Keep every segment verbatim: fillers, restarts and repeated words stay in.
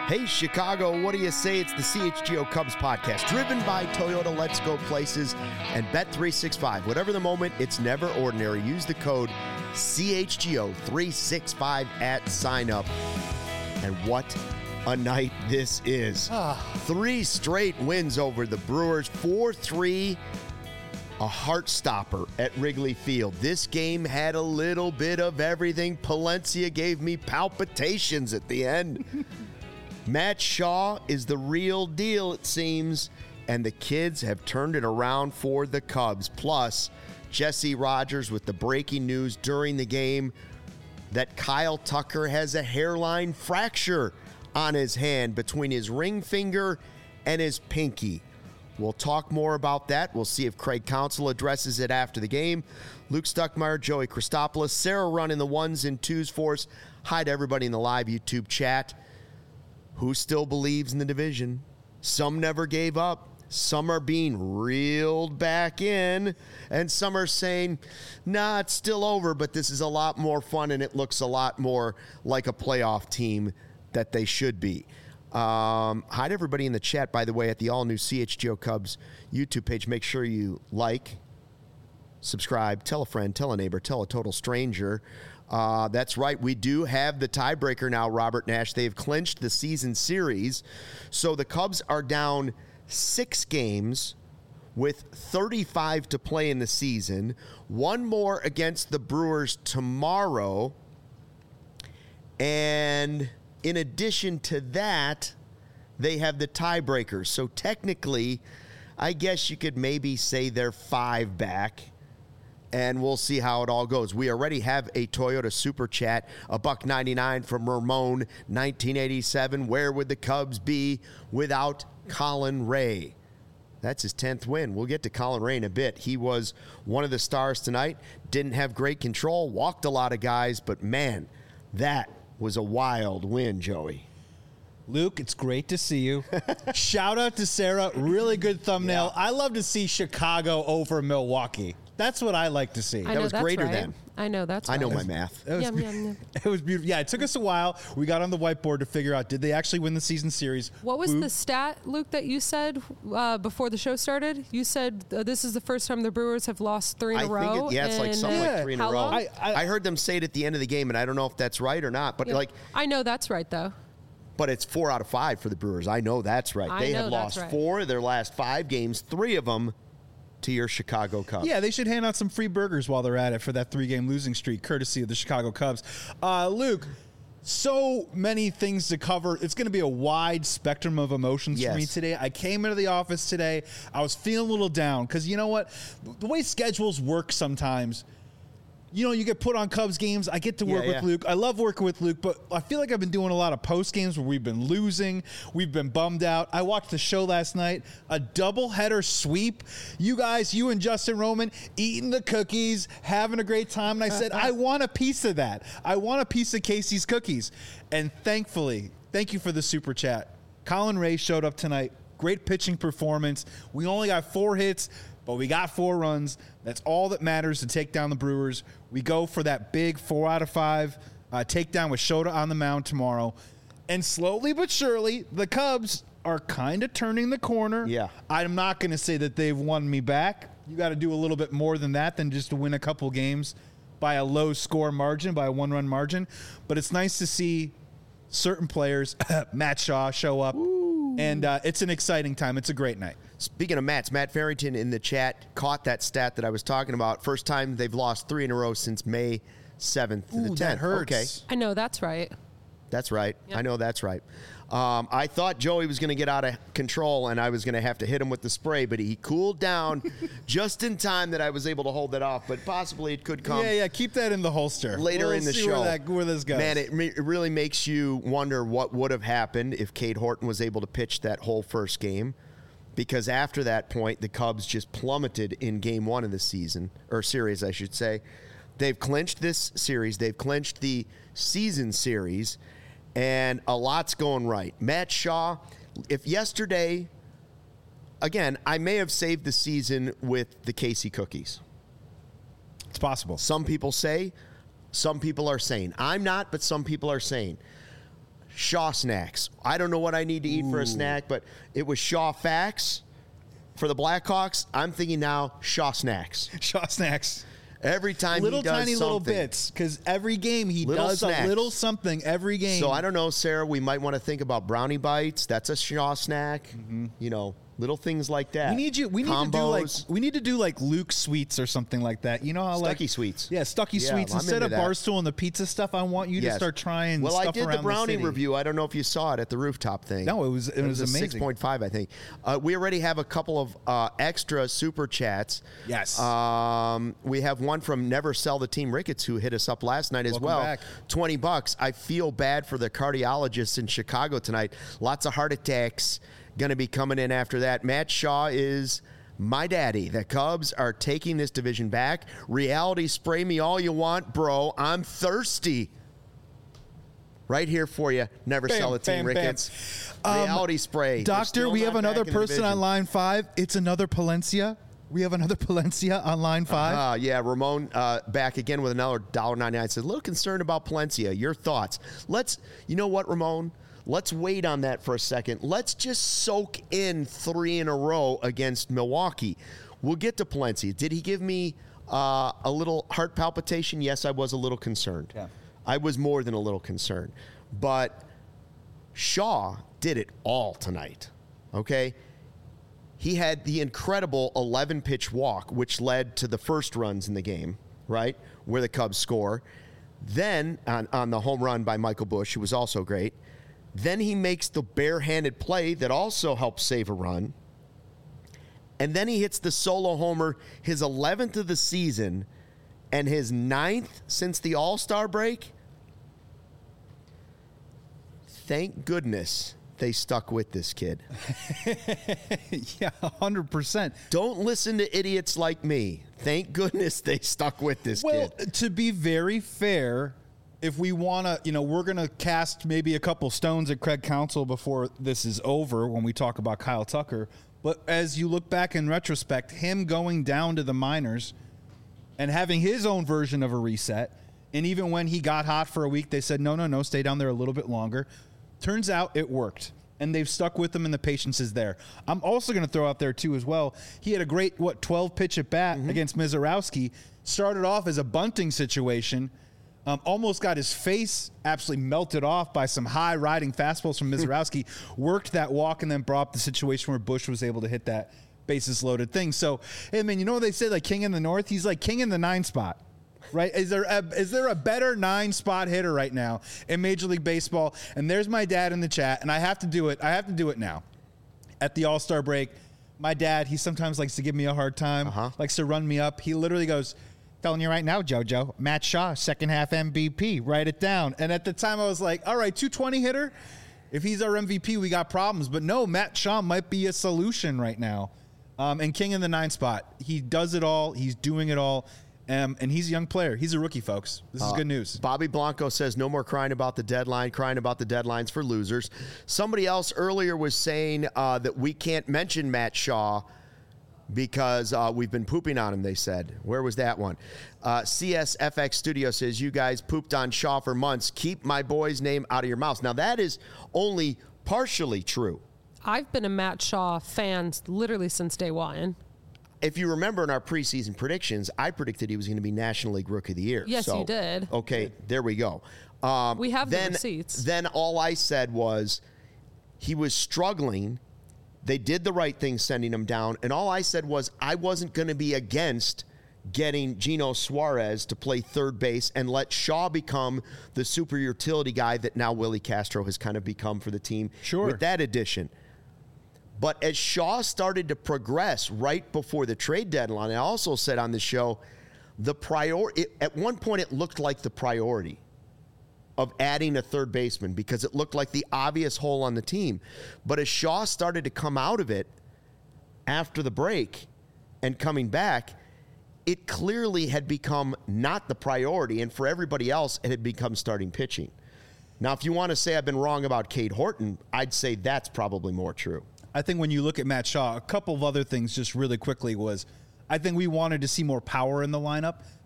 Hey, Chicago, what do you say? It's the C H G O Cubs podcast, driven by Toyota Let's Go Places and Bet three sixty-five. Whatever the moment, it's never ordinary. Use the code C H G O three sixty-five at sign up. And what a night this is. Three straight wins over the Brewers, four three, a heart stopper at Wrigley Field. This game had a little bit of everything. Palencia gave me palpitations at the end. Matt Shaw is the real deal, it seems, and the kids have turned it around for the Cubs. Plus, Jesse Rogers with the breaking news during the game that Kyle Tucker has a hairline fracture on his hand between his ring finger and his pinky. We'll talk more about that. We'll see if Craig Counsell addresses it after the game. Luke Stuckmeyer, Joey Christopoulos, Sarah running the ones and twos for us. Hi to everybody in the live YouTube chat. Who still believes in the division? Some never gave up. Some are being reeled back in. And some are saying, nah, it's still over, but this is a lot more fun and it looks a lot more like a playoff team that they should be. Um, hi to everybody in the chat, by the way, at the all-new C H G O Cubs YouTube page. Make sure you like, subscribe, tell a friend, tell a neighbor, tell a total stranger. Uh, that's right. We do have the tiebreaker now, Robert Nash. They've clinched the season series. So the Cubs are down six games with thirty-five to play in the season. One more against the Brewers tomorrow. And in addition to that, they have the tiebreaker. So technically, I guess you could maybe say they're five back. And we'll see how it all goes. We already have a Toyota Super Chat, a buck ninety-nine from Ramon, nineteen eighty-seven. Where would the Cubs be without Colin Ray? That's his tenth win. We'll get to Colin Ray in a bit. He was one of the stars tonight. Didn't have great control, walked a lot of guys, but man, that was a wild win, Joey. Luke, it's great to see you. Shout out to Sarah. Really good thumbnail. Yeah. I love to see Chicago over Milwaukee. That's what I like to see. I that know was that's greater right. than. I know that's right. I know my math. It was, Yum, yum, yum. it was beautiful. Yeah, it took us a while. We got on the whiteboard to figure out, did they actually win the season series? What was Who- the stat, Luke, that you said uh, before the show started? You said uh, this is the first time the Brewers have lost three in I a row. think it, yeah, it's like in, something Yeah. like three in a how row. long? I, I- I heard them say it at the end of the game, and I don't know if that's right or not. But Yeah. like, I know that's right, though. but it's four out of five for the Brewers. I know that's right. I they know have that's lost right. four of their last five games, three of them to your Chicago Cubs. Yeah, they should hand out some free burgers while they're at it for that three-game losing streak, courtesy of the Chicago Cubs. Uh, Luke, so many things to cover. It's going to be a wide spectrum of emotions Yes. for me today. I came into the office today. I was feeling a little down because you know what? The way schedules work sometimes, you know, you get put on Cubs games. I get to work Yeah, with yeah. Luke. I love working with Luke, but I feel like I've been doing a lot of post games where we've been losing. We've been bummed out. I watched the show last night, a doubleheader sweep. You guys, you and Justin Roman, eating the cookies, having a great time. And I said, I want a piece of that. I want a piece of Casey's cookies. And thankfully, thank you for the super chat. Colin Ray showed up tonight. Great pitching performance. We only got four hits, but we got four runs. That's all that matters to take down the Brewers. We go for that big four out of five uh, takedown with Shota on the mound tomorrow. And slowly but surely, the Cubs are kind of turning the corner. Yeah. I'm not going to say that they've won me back. You got to do a little bit more than that than just to win a couple games by a low score margin, by a one-run margin. But it's nice to see certain players, Matt Shaw, show up. Ooh. And uh, it's an exciting time. It's a great night. Speaking of Mats, Matt Farrington in the chat caught that stat that I was talking about. First time they've lost three in a row since May seventh to Ooh, the tenth. that hurts. Okay, I know that's right. that's right. Yep. I know that's right. Um, I thought Joey was going to get out of control and I was going to have to hit him with the spray, but he cooled down just in time that I was able to hold that off. But possibly it could come Yeah, yeah. Keep that in the holster. later We'll in the see show. Where, that, where this goes. Man, it, re- it really makes you wonder what would have happened if Cade Horton was able to pitch that whole first game. Because after that point, the Cubs just plummeted in game one of the season, or series, I should say. They've clinched this series. They've clinched the season series, and a lot's going right. Matt Shaw, if yesterday, again, I may have saved the season with the Casey cookies. It's possible. Some people say, some people are saying. I'm not, but some people are saying. Shaw snacks. I don't know what I need to eat Ooh. for a snack, but it was Shaw facts for the Blackhawks. I'm thinking now Shaw snacks. Shaw snacks. Every time little he does tiny something. little bits, because every game he Little does snacks. a little something every game. So I don't know, Sarah. We might want to think about brownie bites. That's a Shaw snack. Mm-hmm. You know, little things like that. We need you. We need Combos. to do like we need to do like Luke Sweets or something like that. You know how Stucky like Sweets. Yeah, Stucky Yeah, Sweets I'm instead into of that. Barstool and the pizza stuff. I want you Yes. to start trying. Well, stuff I did around the brownie city. review. I don't know if you saw it at the rooftop thing. No, it was it, It was, was a amazing. six point five, I think. Uh, we already have a couple of uh, extra super chats. Yes. Um, we have one from Never Sell the Team Ricketts who hit us up last night as Welcome well. back. twenty bucks. I feel bad for the cardiologists in Chicago tonight. Lots of heart attacks going to be coming in after that. Matt Shaw is my daddy. The Cubs are taking this division back. Reality, spray me all you want, bro. I'm thirsty. Right here for you. Never Bam, Sell the Team bam, Ricketts. bam. Reality Um, spray. We're Doctor, still we not have another back in the person division. on line five. It's another Palencia. We have another Palencia on line five. Uh, yeah, Ramon uh, back again with another one dollar ninety-nine. Says, a little concerned about Palencia. Your thoughts? Let's, you know what, Ramon? Let's wait on that for a second. Let's just soak in three in a row against Milwaukee. We'll get to Palencia. Did he give me uh, a little heart palpitation? Yes, I was a little concerned. Yeah. I was more than a little concerned. But Shaw did it all tonight, okay? He had the incredible eleven-pitch walk, which led to the first runs in the game, right, where the Cubs score. Then, on, on the home run by Michael Busch, who was also great. Then he makes the barehanded play that also helps save a run. And then he hits the solo homer, his eleventh of the season, and his ninth since the All-Star break. Thank goodness they stuck with this kid. Yeah, one hundred percent. Don't listen to idiots like me. Thank goodness they stuck with this Well, kid. to be very fair, if we want to, you know, we're going to cast maybe a couple stones at Craig Counsell before this is over when we talk about Kyle Tucker. But as you look back in retrospect, him going down to the minors and having his own version of a reset, and even when he got hot for a week, they said, no, no, no, stay down there a little bit longer. Turns out it worked, and they've stuck with him, and the patience is there. I'm also going to throw out there, too, as well. He had a great, what, twelve-pitch at-bat mm-hmm. against Mizorowski. Started off as a bunting situation. Um, almost got his face absolutely melted off by some high-riding fastballs from Mizorowski. Worked that walk and then brought up the situation where Busch was able to hit that bases-loaded thing. So, hey, man, you know what they say, like king in the north? He's like king in the nine spot. Right? Is there a, is there a better nine spot hitter right now in Major League Baseball? And there's my dad in the chat, and I have to do it. I have to do it now. At the All-Star break, my dad, he sometimes likes to give me a hard time, uh-huh. likes to run me up. He literally goes, telling you right now, JoJo, Matt Shaw, second half M V P. Write it down. And at the time, I was like, all right, two twenty hitter. If he's our M V P, we got problems. But no, Matt Shaw might be a solution right now. Um, and king in the nine spot. He does it all. He's doing it all. Um, and he's a young player. He's a rookie, folks. This is uh, good news. Bobby Blanco says, no more crying about the deadline, crying about the deadlines for losers. Somebody else earlier was saying uh, that we can't mention Matt Shaw because uh, we've been pooping on him, they said. Where was that one? Uh, C S F X Studio says, you guys pooped on Shaw for months. Keep my boy's name out of your mouth. Now, that is only partially true. I've been a Matt Shaw fan literally since day one. If you remember in our preseason predictions, I predicted he was going to be National League Rookie of the Year. Yes, so, you did. Okay, there we go. Um, we have then, the receipts. Then all I said was he was struggling. They did the right thing sending him down. And all I said was I wasn't going to be against getting Gino Suarez to play third base and let Shaw become the super utility guy that now Willie Castro has kind of become for the team sure. with that addition. But as Shaw started to progress right before the trade deadline, I also said on the show, the priority at one point it looked like the priority of adding a third baseman because it looked like the obvious hole on the team. But as Shaw started to come out of it after the break and coming back, it clearly had become not the priority, and for everybody else, it had become starting pitching. Now, if you want to say I've been wrong about Cade Horton, I'd say that's probably more true. I think when you look at Matt Shaw, a couple of other things just really quickly was I think we wanted to see more power in the lineup.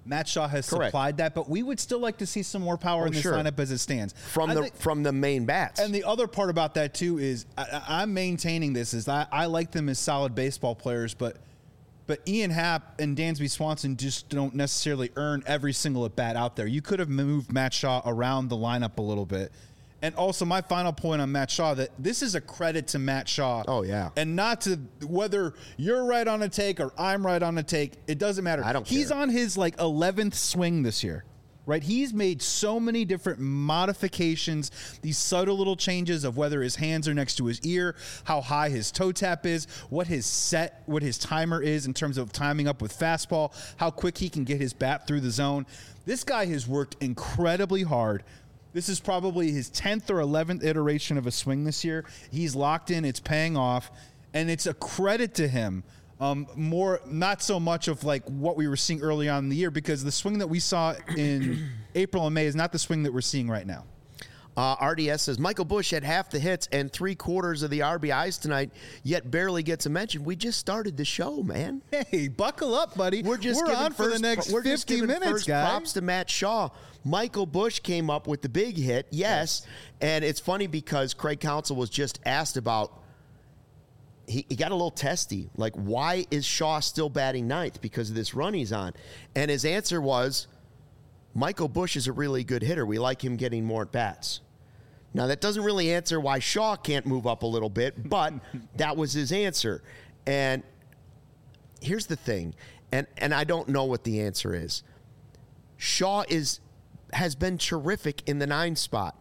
Matt Shaw has Correct. supplied that, but we would still like to see some more power Oh, in this sure. lineup as it stands. From I the think- from the main bats. And the other part about that too is I, I'm maintaining this is I, I like them as solid baseball players, but but Ian Happ and Dansby Swanson just don't necessarily earn every single at bat out there. You could have moved Matt Shaw around the lineup a little bit. And also my final point on Matt Shaw, that this is a credit to Matt Shaw. Oh, yeah. And not to whether you're right on a take or I'm right on a take. It doesn't matter. I don't He's care. on his like eleventh swing this year. Right, he's made so many different modifications, these subtle little changes of whether his hands are next to his ear, how high his toe tap is, what his set, what his timer is in terms of timing up with fastball, how quick he can get his bat through the zone. This guy has worked incredibly hard. This is probably his tenth or eleventh iteration of a swing this year. He's locked in, it's paying off, and it's a credit to him. Um, more, not so much of like what we were seeing early on in the year, because the swing that we saw in April and May is not the swing that we're seeing right now. Uh, R D S says, Michael Busch had half the hits and three quarters of the R B Is tonight, yet barely gets a mention. We just started the show, man. Hey, buckle up, buddy. We're just we're giving on for first, the next we're just fifty giving minutes, first guys. props to Matt Shaw. Michael Busch came up with the big hit, yes. yes. And it's funny because Craig Counsell was just asked about, he, he got a little testy, like, why is Shaw still batting ninth? Because of this run he's on. And his answer was, Michael Busch is a really good hitter. We like him getting more at-bats. Now, that doesn't really answer why Shaw can't move up a little bit, but that was his answer. And here's the thing, and, and I don't know what the answer is. Shaw is has been terrific in the nine spot.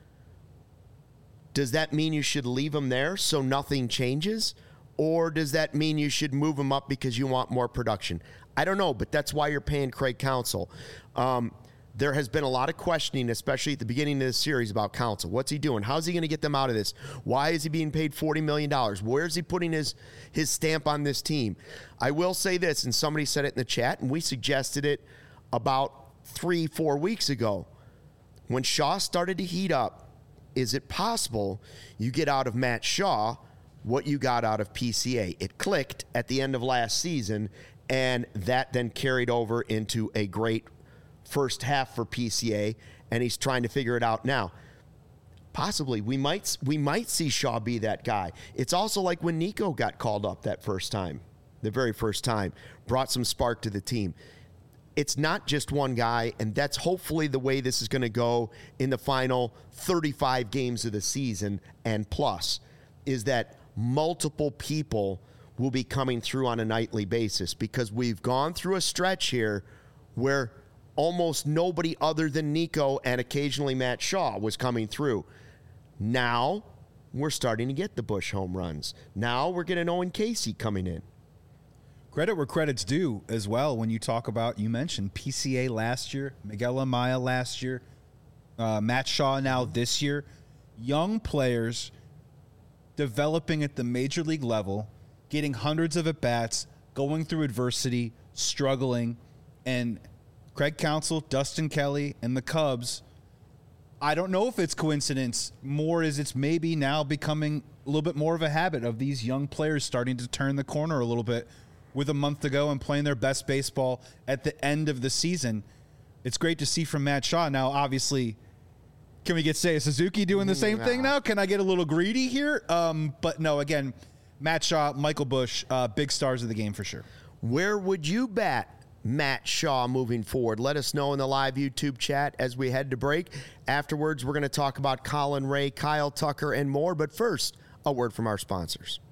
Does that mean you should leave him there so nothing changes? Or does that mean you should move him up because you want more production? I don't know, but that's why you're paying Craig Counsell. Um, there has been a lot of questioning, especially at the beginning of this series, about Counsell. What's he doing? How's he going to get them out of this? Why is he being paid forty million dollars? Where is he putting his, his stamp on this team? I will say this, and somebody said it in the chat, and we suggested it about three, four weeks ago. When Shaw started to heat up, is it possible you get out of Matt Shaw what you got out of P C A? It clicked at the end of last season, and that then carried over into a great first half for P C A, and he's trying to figure it out now. Possibly, we might we might see Shaw be that guy. It's also like when Nico got called up that first time, the very first time, brought some spark to the team. It's not just one guy, and that's hopefully the way this is going to go in the final thirty-five games of the season and plus, is that multiple people will be coming through on a nightly basis, because we've gone through a stretch here where almost nobody other than Nico and occasionally Matt Shaw was coming through. Now we're starting to get the Busch home runs. Now we're getting Owen Casey coming in. Credit where credit's due as well when you talk about, you mentioned P C A last year, Miguel Amaya last year, uh, Matt Shaw now this year. Young players developing at the major league level, getting hundreds of at-bats, going through adversity, struggling, and Craig Counsell, Dustin Kelly, and the Cubs, I don't know if it's coincidence, more as it's maybe now becoming a little bit more of a habit of these young players starting to turn the corner a little bit with a month to go and playing their best baseball at the end of the season. It's great to see from Matt Shaw. Now, obviously, can we get Seiya Suzuki doing the same Nah. thing now? Can I get a little greedy here? Um, but no, again, Matt Shaw, Michael Busch, uh, big stars of the game for sure. Where would you bat Matt Shaw moving forward? Let us know in the live YouTube chat as we head to break. Afterwards, we're going to talk about Colin Ray, Kyle Tucker, and more. But first, a word from our sponsors.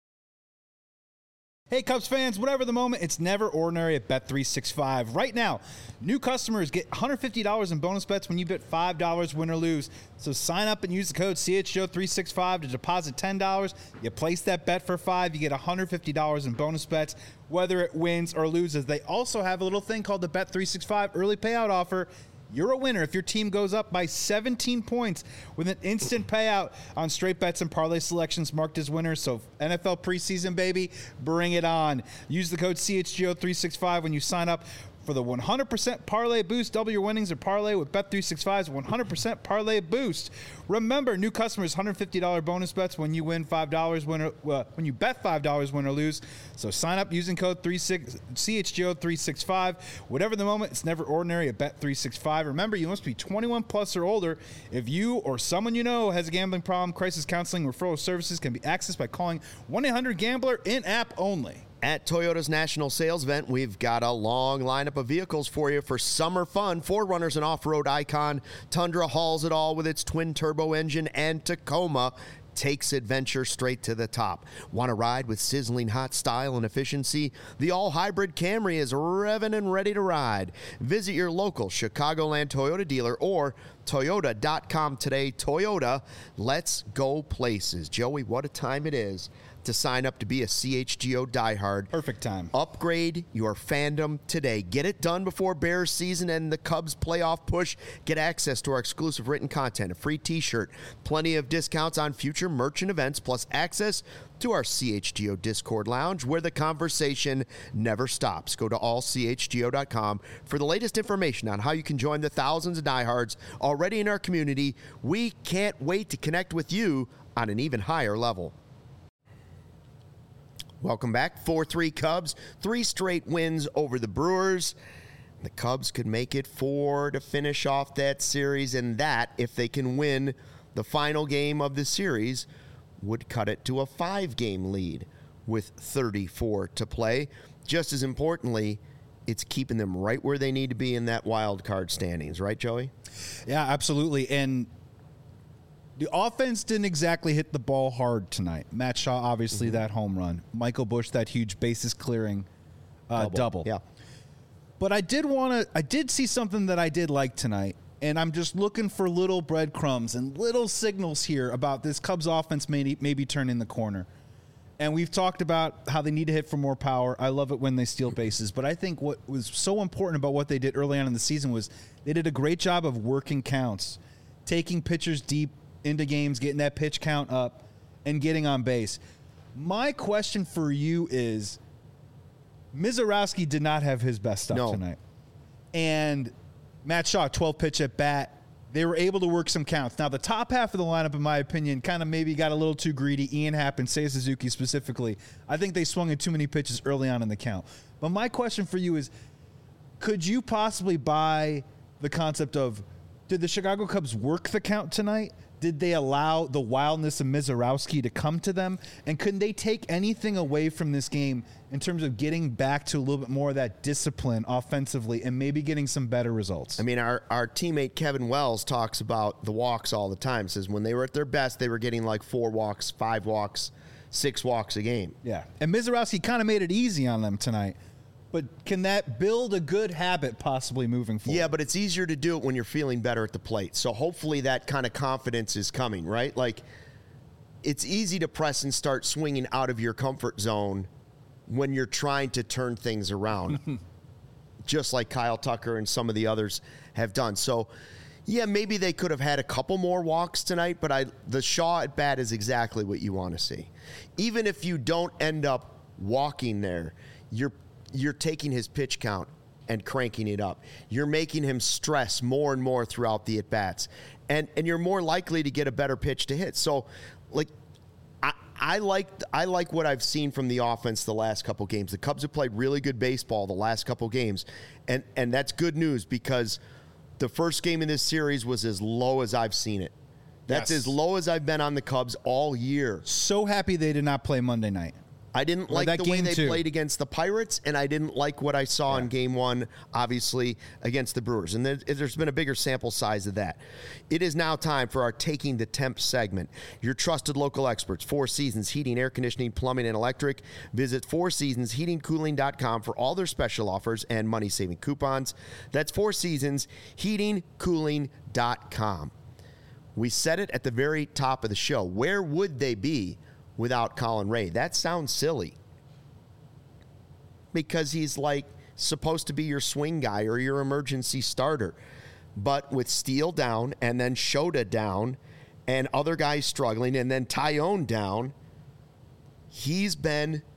Hey, Cubs fans, whatever the moment, it's never ordinary at Bet three sixty-five. Right now, new customers get one hundred fifty dollars in bonus bets when you bet five dollars win or lose. So sign up and use the code C H G O three sixty-five to deposit ten dollars. You place that bet for five, you get one hundred fifty dollars in bonus bets, whether it wins or loses. They also have a little thing called the Bet three sixty-five early payout offer. You're a winner if your team goes up by seventeen points with an instant payout on straight bets and parlay selections marked as winners. So N F L preseason, baby, bring it on. Use the code C H G O three sixty-five when you sign up For the one hundred percent parlay boost, double your winnings or parlay with Bet three sixty-five's one hundred percent parlay boost. Remember, new customers, one hundred fifty dollars bonus bets when you win five dollars, win or, uh, when you bet five dollars, win or lose. So sign up using code C H G O three sixty-five. Whatever the moment, it's never ordinary at Bet three sixty-five. Remember, you must be twenty-one plus or older. If you or someone you know has a gambling problem, crisis counseling referral services can be accessed by calling one eight hundred gambler in-app only. At Toyota's national sales event, we've got a long lineup of vehicles for you for summer fun. four runners and off-road icon. Tundra hauls it all with its twin-turbo engine, and Tacoma takes adventure straight to the top. Want to ride with sizzling hot style and efficiency? The all-hybrid Camry is revving and ready to ride. Visit your local Chicagoland Toyota dealer or Toyota dot com today. Toyota, let's go places. Joey, what a time it is to sign up to be a C H G O diehard. Perfect time. Upgrade your fandom today. Get it done before Bears season and the Cubs playoff push. Get access to our exclusive written content, a free t-shirt, plenty of discounts on future merch and events, plus access to our C H G O Discord lounge where the conversation never stops. Go to all C H G O dot com for the latest information on how you can join the thousands of diehards already in our community. We can't wait to connect with you on an even higher level. Welcome back. four three Cubs. Three straight wins over the Brewers. The Cubs could make it four to finish off that series, and that, if they can win the final game of the series, would cut it to a five-game lead with thirty-four to play. Just as importantly, it's keeping them right where they need to be in that wild card standings. Right, Joey? Yeah, absolutely. And the offense didn't exactly hit the ball hard tonight. Matt Shaw, obviously, mm-hmm. that home run. Michael Busch, that huge bases clearing uh, double. double. Yeah. But I did want to, I did see something that I did like tonight, and I'm just looking for little breadcrumbs and little signals here about this Cubs offense maybe, maybe turning the corner. And we've talked about how they need to hit for more power. I love it when they steal bases. But I think what was so important about what they did early on in the season was they did a great job of working counts, taking pitchers deep into games, getting that pitch count up, and getting on base. My question for you is, Mizorowski did not have his best stuff no. tonight. And Matt Shaw, twelve pitch at bat. They were able to work some counts. Now, the top half of the lineup, in my opinion, kind of maybe got a little too greedy. Ian Happ and Seiya Suzuki specifically. I think they swung in too many pitches early on in the count. But my question for you is, could you possibly buy the concept of, did the Chicago Cubs work the count tonight? Did they allow the wildness of Mizorowski to come to them? And couldn't they take anything away from this game in terms of getting back to a little bit more of that discipline offensively and maybe getting some better results? I mean, our, our teammate Kevin Wells talks about the walks all the time. Says when they were at their best, they were getting like four walks, five walks, six walks a game. Yeah. And Mizorowski kind of made it easy on them tonight. But can that build a good habit possibly moving forward? Yeah, but it's easier to do it when you're feeling better at the plate. So hopefully that kind of confidence is coming, right? Like, it's easy to press and start swinging out of your comfort zone when you're trying to turn things around, just like Kyle Tucker and some of the others have done. So, yeah, maybe they could have had a couple more walks tonight, but I the Shaw at bat is exactly what you want to see. Even if you don't end up walking there, you're you're taking his pitch count and cranking it up. You're making him stress more and more throughout the at-bats. And and you're more likely to get a better pitch to hit. So, like, I, I like I like what I've seen from the offense the last couple games. The Cubs have played really good baseball the last couple games. And, and that's good news because the first game in this series was as low as I've seen it. That's yes. as low as I've been on the Cubs all year. So happy they did not play Monday night. I didn't like the way they two. played against the Pirates, and I didn't like what I saw yeah. in game one, obviously, against the Brewers. And there's been a bigger sample size of that. It is now time for our Taking the Temp segment. Your trusted local experts, Four Seasons Heating, Air Conditioning, Plumbing, and Electric. Visit four seasons heating cooling dot com for all their special offers and money-saving coupons. That's four seasons heating cooling dot com. We said it at the very top of the show. Where would they be without Colin Ray? That sounds silly because he's like supposed to be your swing guy or your emergency starter. But with Steele down and then Shota down and other guys struggling and then Tyone down, he's been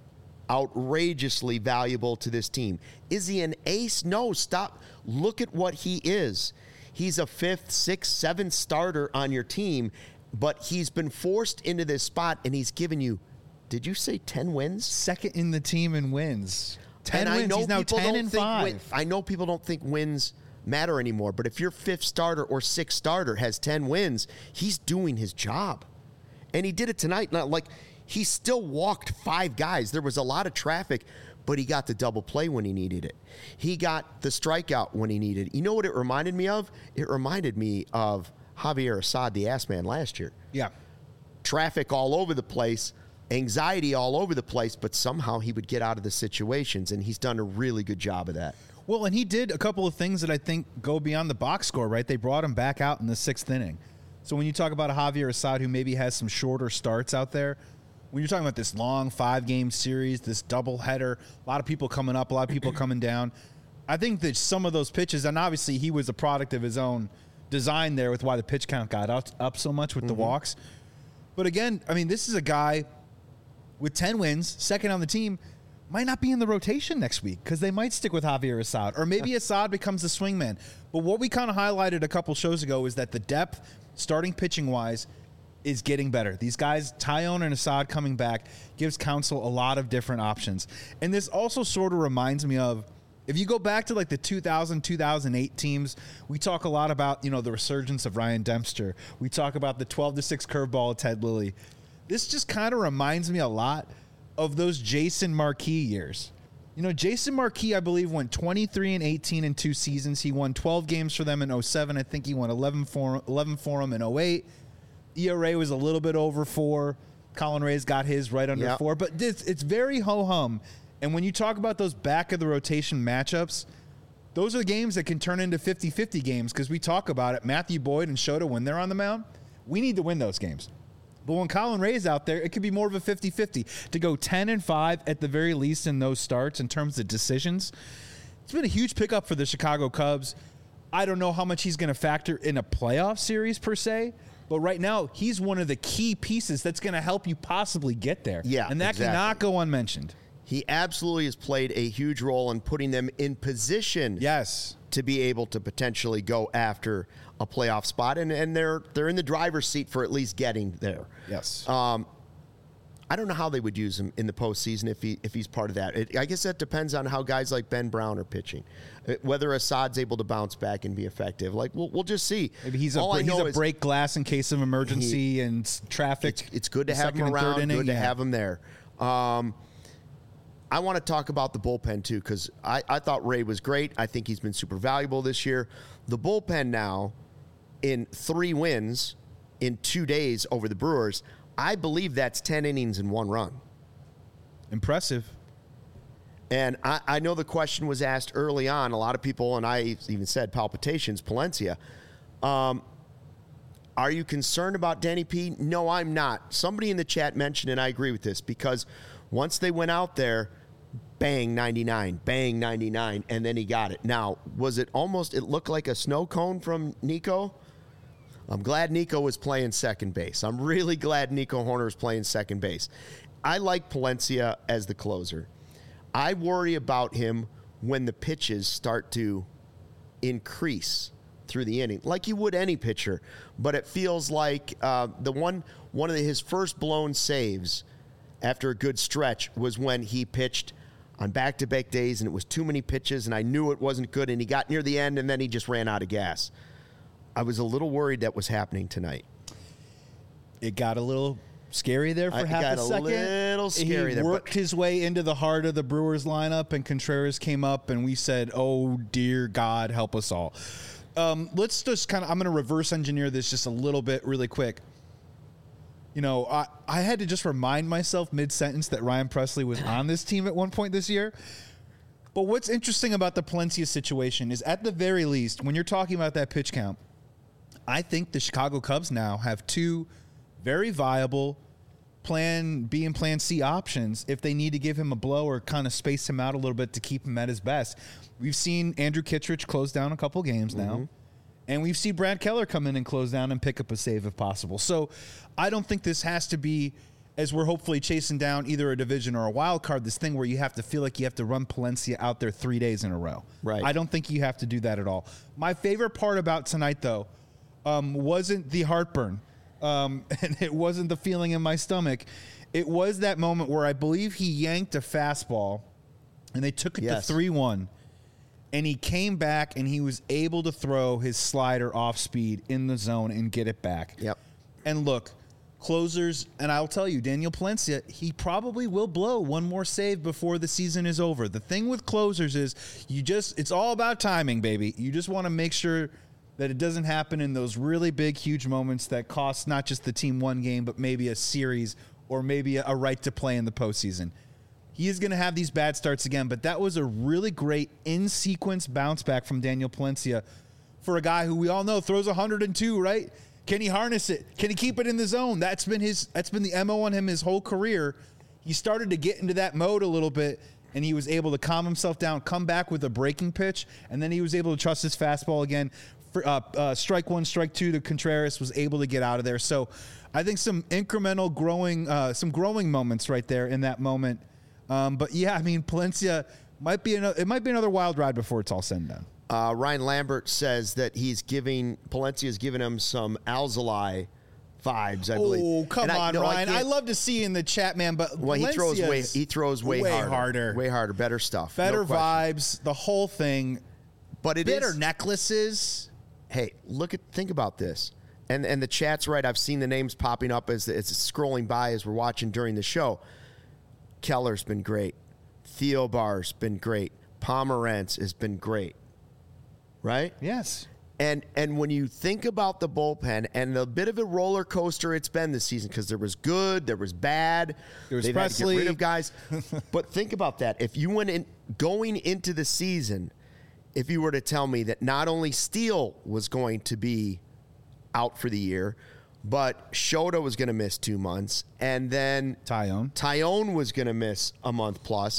outrageously valuable to this team. Is he an ace? No, stop. Look at what he is. He's a fifth, sixth, seventh starter on your team, but he's been forced into this spot, and he's given you, did you say ten wins? Second in the team in wins. ten and wins. I know He's now people ten don't and think five. Win, I know people don't think wins matter anymore, but if your fifth starter or sixth starter has ten wins, he's doing his job. And he did it tonight. Not like he still walked five guys. There was a lot of traffic, but he got the double play when he needed it. He got the strikeout when he needed it. You know what it reminded me of? It reminded me of Javier Assad, the ass man, last year. Yeah. Traffic all over the place, anxiety all over the place, but somehow he would get out of the situations, and he's done a really good job of that. Well, and he did a couple of things that I think go beyond the box score, right? They brought him back out in the sixth inning. So when you talk about a Javier Assad who maybe has some shorter starts out there, when you're talking about this long five-game series, this doubleheader, a lot of people coming up, a lot of people coming down, I think that some of those pitches, and obviously he was a product of his own design there with why the pitch count got up, up so much with mm-hmm. the walks. But again, I mean, this is a guy with ten wins, second on the team, might not be in the rotation next week because they might stick with Javier Assad. Or maybe Assad becomes the swingman. But what we kind of highlighted a couple shows ago is that the depth, starting pitching-wise, is getting better. These guys, Taillon and Assad coming back, gives Counsell a lot of different options. And this also sort of reminds me of, if you go back to like the two thousand, two thousand eight teams, we talk a lot about, you know, the resurgence of Ryan Dempster. We talk about the twelve to six curveball of Ted Lilly. This just kind of reminds me a lot of those Jason Marquis years. You know, Jason Marquis, I believe, went twenty-three and eighteen in two seasons. He won twelve games for them in oh seven. I think he won eleven for, eleven for them in oh eight. E R A was a little bit over four. Colin Ray's got his right under yep. four. But it's, it's very ho-hum. And when you talk about those back-of-the-rotation matchups, those are the games that can turn into fifty-fifty games because we talk about it. Matthew Boyd and Shota, when they're on the mound, we need to win those games. But when Colin Ray's out there, it could be more of a fifty-fifty. To go ten and five at the very least in those starts in terms of decisions, it's been a huge pickup for the Chicago Cubs. I don't know how much he's going to factor in a playoff series per se, but right now he's one of the key pieces that's going to help you possibly get there. Yeah, and that exactly. cannot go unmentioned. He absolutely has played a huge role in putting them in position yes. to be able to potentially go after a playoff spot, and, and they're they're in the driver's seat for at least getting there. Yes. Um, I don't know how they would use him in the postseason if he if he's part of that. It, I guess that depends on how guys like Ben Brown are pitching, whether Assad's able to bounce back and be effective. Like we'll we'll just see. Maybe he's a All he's a break glass in case of emergency he, and traffic. It's, it's good to have him around. Inning, good yeah. to have him there. Um, I want to talk about the bullpen, too, because I, I thought Ray was great. I think he's been super valuable this year. The bullpen now, in three wins in two days over the Brewers, I believe that's ten innings and one run. Impressive. And I, I know the question was asked early on. A lot of people, and I even said palpitations, Palencia. Um, are you concerned about Danny P? No, I'm not. Somebody in the chat mentioned, and I agree with this, because once they went out there, bang, ninety-nine, bang, ninety-nine, and then he got it. Now, was it almost, it looked like a snow cone from Nico? I'm glad Nico was playing second base. I'm really glad Nico Hoerner was playing second base. I like Palencia as the closer. I worry about him when the pitches start to increase through the inning, like you would any pitcher. But it feels like uh, the one, one of the, his first blown saves after a good stretch was when he pitched on back-to-back days, and it was too many pitches, and I knew it wasn't good, and he got near the end, and then he just ran out of gas. I was a little worried that was happening tonight. It got a little scary there for I, half got a second. a little scary he there. He worked his way into the heart of the Brewers lineup, and Contreras came up, and we said, oh, dear God, help us all. Um, let's just kind of, I'm going to reverse engineer this just a little bit really quick. You know, I, I had to just remind myself mid-sentence that Ryan Presley was on this team at one point this year. But what's interesting about the Palencia situation is, at the very least, when you're talking about that pitch count, I think the Chicago Cubs now have two very viable plan B and plan C options if they need to give him a blow or kind of space him out a little bit to keep him at his best. We've seen Andrew Kittredge close down a couple games now. Mm-hmm. And we've seen Brad Keller come in and close down and pick up a save if possible. So I don't think this has to be as we're hopefully chasing down either a division or a wild card, this thing where you have to feel like you have to run Palencia out there three days in a row. Right. I don't think you have to do that at all. My favorite part about tonight, though, um, wasn't the heartburn, um, and it wasn't the feeling in my stomach. It was that moment where I believe he yanked a fastball, and they took it Yes. to three one, and he came back, and he was able to throw his slider off speed in the zone and get it back. Yep. And look, closers, and I'll tell you, Daniel Palencia, he probably will blow one more save before the season is over. The thing with closers is you just, it's all about timing, baby. You just want to make sure that it doesn't happen in those really big, huge moments that cost not just the team one game, but maybe a series or maybe a, a right to play in the postseason. He is going to have these bad starts again, but that was a really great in-sequence bounce back from Daniel Palencia for a guy who we all know throws one hundred two, right? Can he harness it? Can he keep it in the zone? That's been his. That's been the M O on him his whole career. He started to get into that mode a little bit, and he was able to calm himself down, come back with a breaking pitch, and then he was able to trust his fastball again. For, uh, uh, strike one, strike two to Contreras, was able to get out of there. So I think some incremental growing, uh, some growing moments right there in that moment. Um, but yeah, I mean, Palencia might be another, it might be another wild ride before it's all said and done. Uh, Ryan Lambert says that he's giving Palencia is giving him some Alzolay vibes. I believe. Oh, come And I- on, no, I Ryan! I, can't- love to see you in the chat, man. But Well, he throws way Valencia's he throws way, way harder, harder, way harder, better stuff, better no question. vibes, the whole thing. But it Bitter is. necklaces. Hey, look at think about this, and and the chat's right. I've seen the names popping up as it's scrolling by as we're watching during the show. Keller's been great. Theo Barr's been great. Pomerantz has been great. Right? Yes. And and when you think about the bullpen and the bit of a roller coaster it's been this season, because there was good, there was bad, There was they've had to Presley. get rid of guys. But think about that. If you went in going into the season, if you were to tell me that not only Steele was going to be out for the year, but Shota was going to miss two months, and then Tyone. Tyone was going to miss a month plus,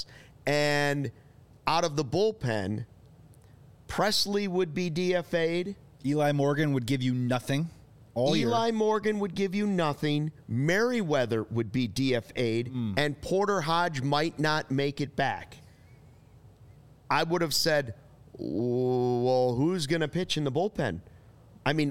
and out of the bullpen, Presley would be D F A'd. Eli Morgan would give you nothing all year. Eli Morgan would give you nothing. Merriweather would be D F A'd, Mm. and Porter Hodge might not make it back. I would have said, well, who's going to pitch in the bullpen? I mean,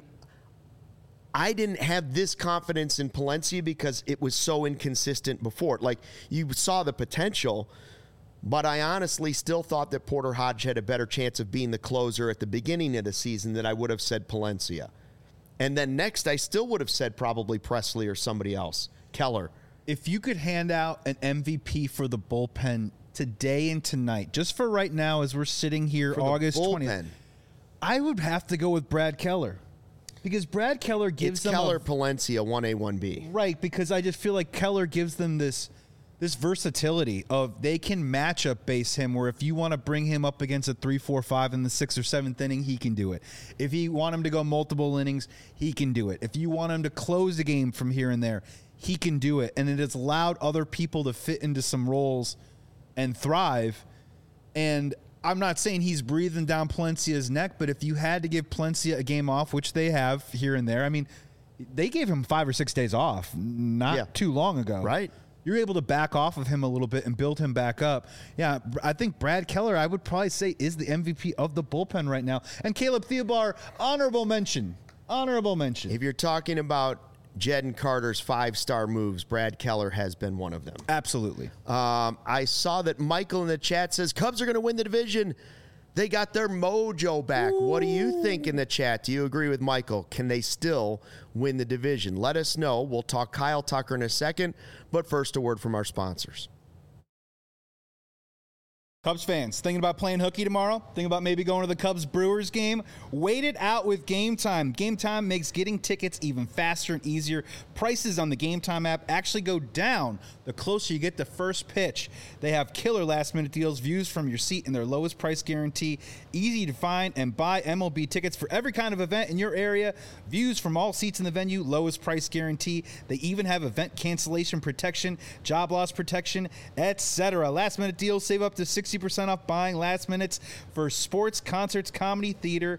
I didn't have this confidence in Palencia because it was so inconsistent before. Like, you saw the potential, but I honestly still thought that Porter Hodge had a better chance of being the closer at the beginning of the season than I would have said Palencia. And then next, I still would have said probably Presley or somebody else, Keller. If you could hand out an M V P for the bullpen today and tonight, just for right now as we're sitting here For the August twentieth, bullpen. I would have to go with Brad Keller. Because Brad Keller gives It's them Keller, a, Palencia, one A, one B. right, because I just feel like Keller gives them this this versatility of they can matchup base him where if you want to bring him up against a three, four, five in the sixth or seventh inning, he can do it. If you want him to go multiple innings, he can do it. If you want him to close the game from here and there, he can do it. And it has allowed other people to fit into some roles and thrive. And I'm not saying he's breathing down Palencia's neck, but if you had to give Palencia a game off, which they have here and there, I mean, they gave him five or six days off not Yeah. too long ago. Right. You're able to back off of him a little bit and build him back up. Yeah, I think Brad Keller, I would probably say, is the M V P of the bullpen right now. And Caleb Theobar, honorable mention. Honorable mention. If you're talking about Jed and Carter's five-star moves, Brad Keller has been one of them. Absolutely. Um, I saw that Michael in the chat says Cubs are going to win the division. They got their mojo back. Ooh. What do you think in the chat? Do you agree with Michael? Can they still win the division? Let us know. We'll talk Kyle Tucker in a second, but first a word from our sponsors. Cubs fans, thinking about playing hooky tomorrow? Thinking about maybe going to the Cubs-Brewers game? Wait it out with Game Time. Game Time makes getting tickets even faster and easier. Prices on the Game Time app actually go down the closer you get to first pitch. They have killer last-minute deals, views from your seat, and their lowest price guarantee. Easy to find and buy M L B tickets for every kind of event in your area. Views from all seats in the venue, lowest price guarantee. They even have event cancellation protection, job loss protection, et cetera. Last-minute deals save up to sixty percent off buying last minutes for sports, concerts, comedy, theater,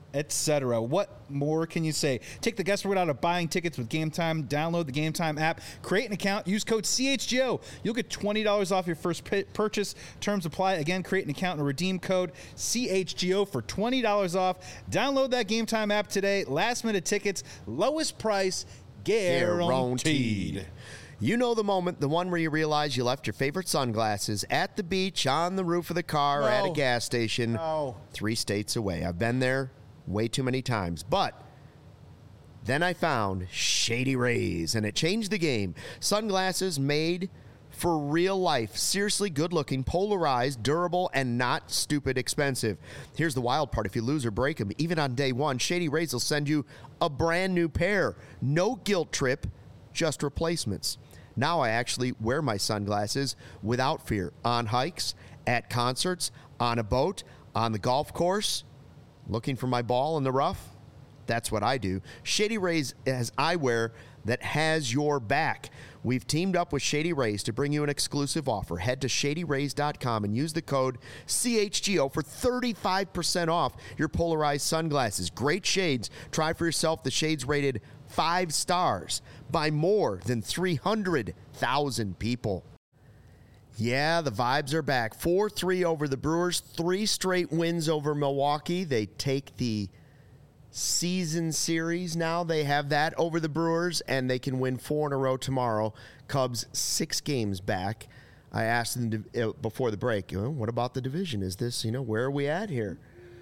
et cetera. What more can you say? Take the guesswork out of buying tickets with Game Time. Download the Game Time app, create an account, use code C H G O. You'll get twenty dollars off your first p- purchase. Terms apply. Again, create an account and redeem code C H G O for twenty dollars off. Download that Game Time app today. Last minute tickets, lowest price guaranteed. Guaranteed. You know the moment, the one where you realize you left your favorite sunglasses at the beach, on the roof of the car, No. at a gas station, No. three states away. I've been there way too many times. But then I found Shady Rays, and it changed the game. Sunglasses made for real life. Seriously good-looking, polarized, durable, and not stupid expensive. Here's the wild part. If you lose or break them, even on day one, Shady Rays will send you a brand new pair. No guilt trip, just replacements. Now I actually wear my sunglasses without fear. On hikes, at concerts, on a boat, on the golf course, looking for my ball in the rough. That's what I do. Shady Rays has eyewear that has your back. We've teamed up with Shady Rays to bring you an exclusive offer. Head to shady rays dot com and use the code C H G O for thirty-five percent off your polarized sunglasses. Great shades. Try for yourself the shades rated five stars by more than three hundred thousand people. Yeah, the vibes are back. four three over the Brewers. Three straight wins over Milwaukee. They take the season series now. They have that over the Brewers, and they can win four in a row tomorrow. Cubs six games back. I asked them to, uh, before the break, you know, what about the division? Is this, you know, where are we at here?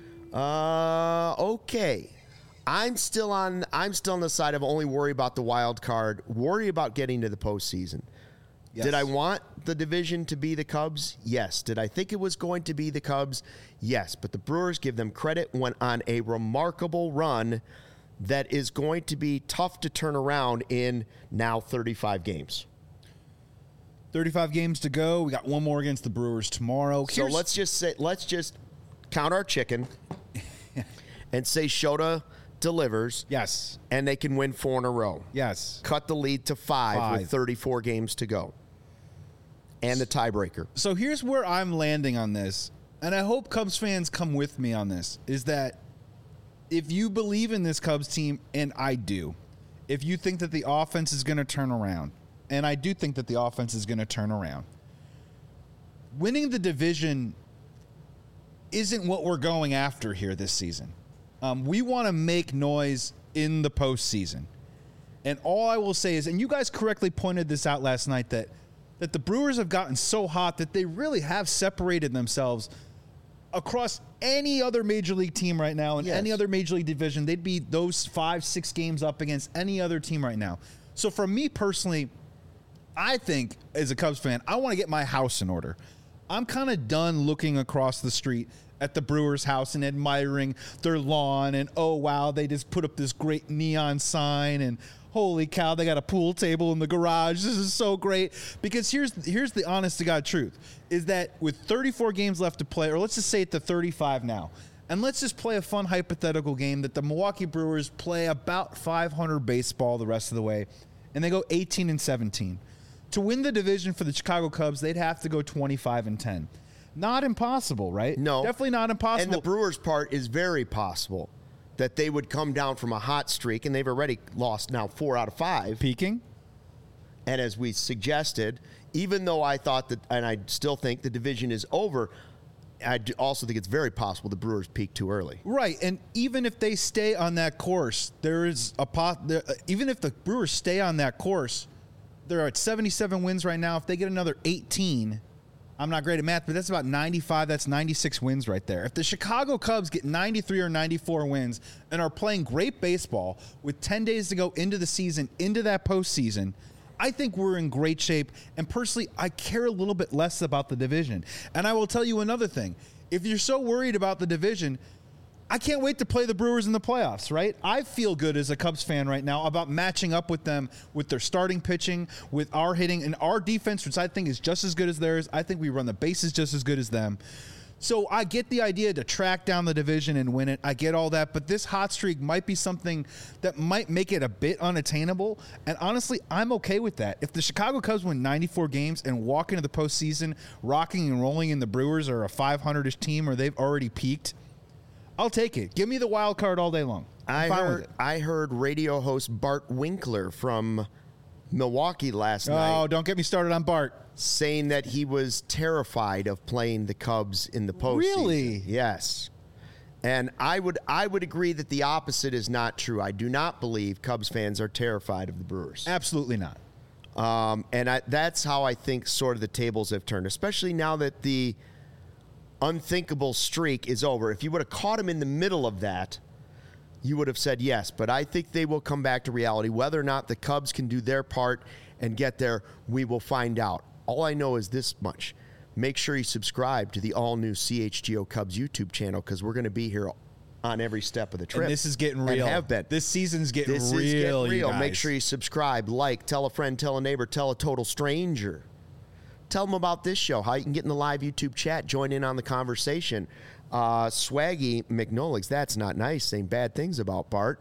Uh, okay. I'm still on. I'm still on the side of only worry about the wild card. Worry about getting to the postseason. Yes. Did I want the division to be the Cubs? Yes. Did I think it was going to be the Cubs? Yes. But the Brewers, give them credit, went on a remarkable run that is going to be tough to turn around in now thirty-five games. thirty-five games to go. We got one more against the Brewers tomorrow. So Here's- let's just say, let's just count our chicken and say Shota delivers. Yes. And they can win four in a row. Yes. Cut the lead to five, Five. with thirty-four games to go. And the tiebreaker. So here's where I'm landing on this, and I hope Cubs fans come with me on this, is that if you believe in this Cubs team, and I do, if you think that the offense is going to turn around, and I do think that the offense is going to turn around, winning the division isn't what we're going after here this season. Um, we want to make noise in the postseason. And all I will say is, and you guys correctly pointed this out last night, that that the Brewers have gotten so hot that they really have separated themselves across any other major league team right now in Yes. any other major league division. They'd be those five, six games up against any other team right now. So for me personally, I think as a Cubs fan, I want to get my house in order. I'm kind of done looking across the street at the Brewers' house and admiring their lawn and, oh, wow, they just put up this great neon sign and, holy cow, they got a pool table in the garage. This is so great. Because here's here's the honest-to-God truth, is that with thirty-four games left to play, or let's just say it to thirty-five now, and let's just play a fun hypothetical game that the Milwaukee Brewers play about five hundred baseball the rest of the way, and they go eighteen and seventeen. To win the division for the Chicago Cubs, they'd have to go twenty-five and ten. Not impossible, right? No. Definitely not impossible. And the Brewers' part is very possible that they would come down from a hot streak, and they've already lost now four out of five. Peaking? And as we suggested, even though I thought that, and I still think the division is over, I do also think it's very possible the Brewers peaked too early. Right, and even if they stay on that course, there is a pot. There, even if the Brewers stay on that course, they're at seventy-seven wins right now. If they get another eighteen, I'm not great at math, but that's about ninety-five. That's ninety-six wins right there. If the Chicago Cubs get ninety-three or ninety-four wins and are playing great baseball with ten days to go into the season, into that postseason, I think we're in great shape. And personally, I care a little bit less about the division. And I will tell you another thing. If you're so worried about the division, I can't wait to play the Brewers in the playoffs, right? I feel good as a Cubs fan right now about matching up with them with their starting pitching, with our hitting, and our defense, which I think is just as good as theirs. I think we run the bases just as good as them. So I get the idea to track down the division and win it. I get all that, but this hot streak might be something that might make it a bit unattainable. And honestly, I'm okay with that. If the Chicago Cubs win ninety-four games and walk into the postseason rocking and rolling, and the Brewers are a five hundred-ish team or they've already peaked, I'll take it. Give me the wild card all day long. I'm I fine heard, with it. I heard radio host Bart Winkler from Milwaukee last Oh, night don't get me started on Bart. saying that he was terrified of playing the Cubs in the postseason. Really? Yes. And I would I would agree that the opposite is not true. I do not believe Cubs fans are terrified of the Brewers. Absolutely not. Um, and I, that's how I think sort of the tables have turned, especially now that the unthinkable streak is over. If you would have caught him in the middle of that, you would have said yes. But I think they will come back to reality. Whether or not the Cubs can do their part and get there, we will find out. All I know is this much. Make sure you subscribe to the all-new C H G O Cubs YouTube channel because we're going to be here on every step of the trip. And this is getting real. And have been. This season's getting This real. is getting you real. guys. Make sure you subscribe, like, tell a friend, tell a neighbor, tell a total stranger. Tell them about this show, how you can get in the live YouTube chat, join in on the conversation. Uh, Swaggy McNoligs, that's not nice, saying bad things about Bart.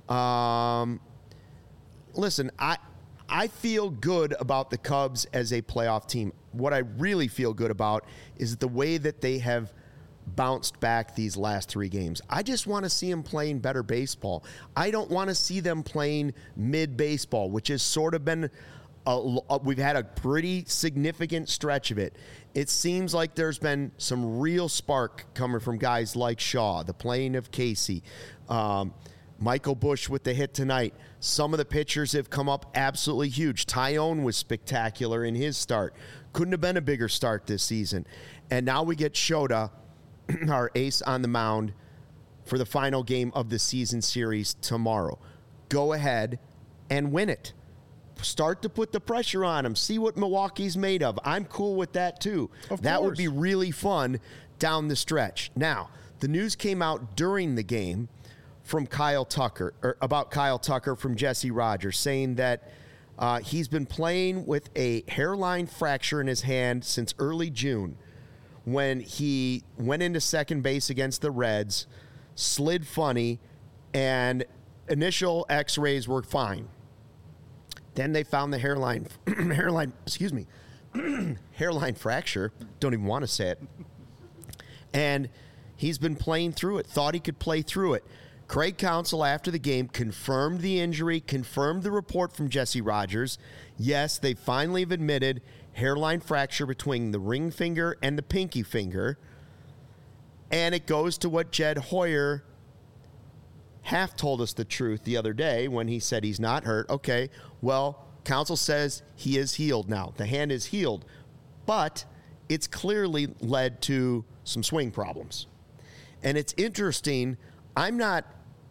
Um, listen, I I feel good about the Cubs as a playoff team. What I really feel good about is the way that they have bounced back these last three games. I just want to see them playing better baseball. I don't want to see them playing mid-baseball, which has sort of been a, a, we've had a pretty significant stretch of it. It seems like there's been some real spark coming from guys like Shaw, the playing of Casey, um, Michael Busch with the hit tonight. Some of the pitchers have come up absolutely huge. Tyone was spectacular in his start. Couldn't have been a bigger start this season. And now we get Shota, our ace on the mound, for the final game of the season series tomorrow. Go ahead and win it. Start to put the pressure on them. See what Milwaukee's made of. I'm cool with that, too. Of that course. would be really fun down the stretch. Now, the news came out during the game from Kyle Tucker, or about Kyle Tucker from Jesse Rogers, saying that uh, he's been playing with a hairline fracture in his hand since early June when he went into second base against the Reds, slid funny, and initial x-rays were fine. Then they found the hairline, hairline, excuse me, hairline fracture. Don't even want to say it. And he's been playing through it, thought he could play through it. Craig Counsell, after the game, confirmed the injury, confirmed the report from Jesse Rogers. Yes, they finally have admitted hairline fracture between the ring finger and the pinky finger. And it goes to what Jed Hoyer half told us the truth the other day when he said he's not hurt. Okay, well, Counsell says he is healed now. The hand is healed. But it's clearly led to some swing problems. And it's interesting. I'm not,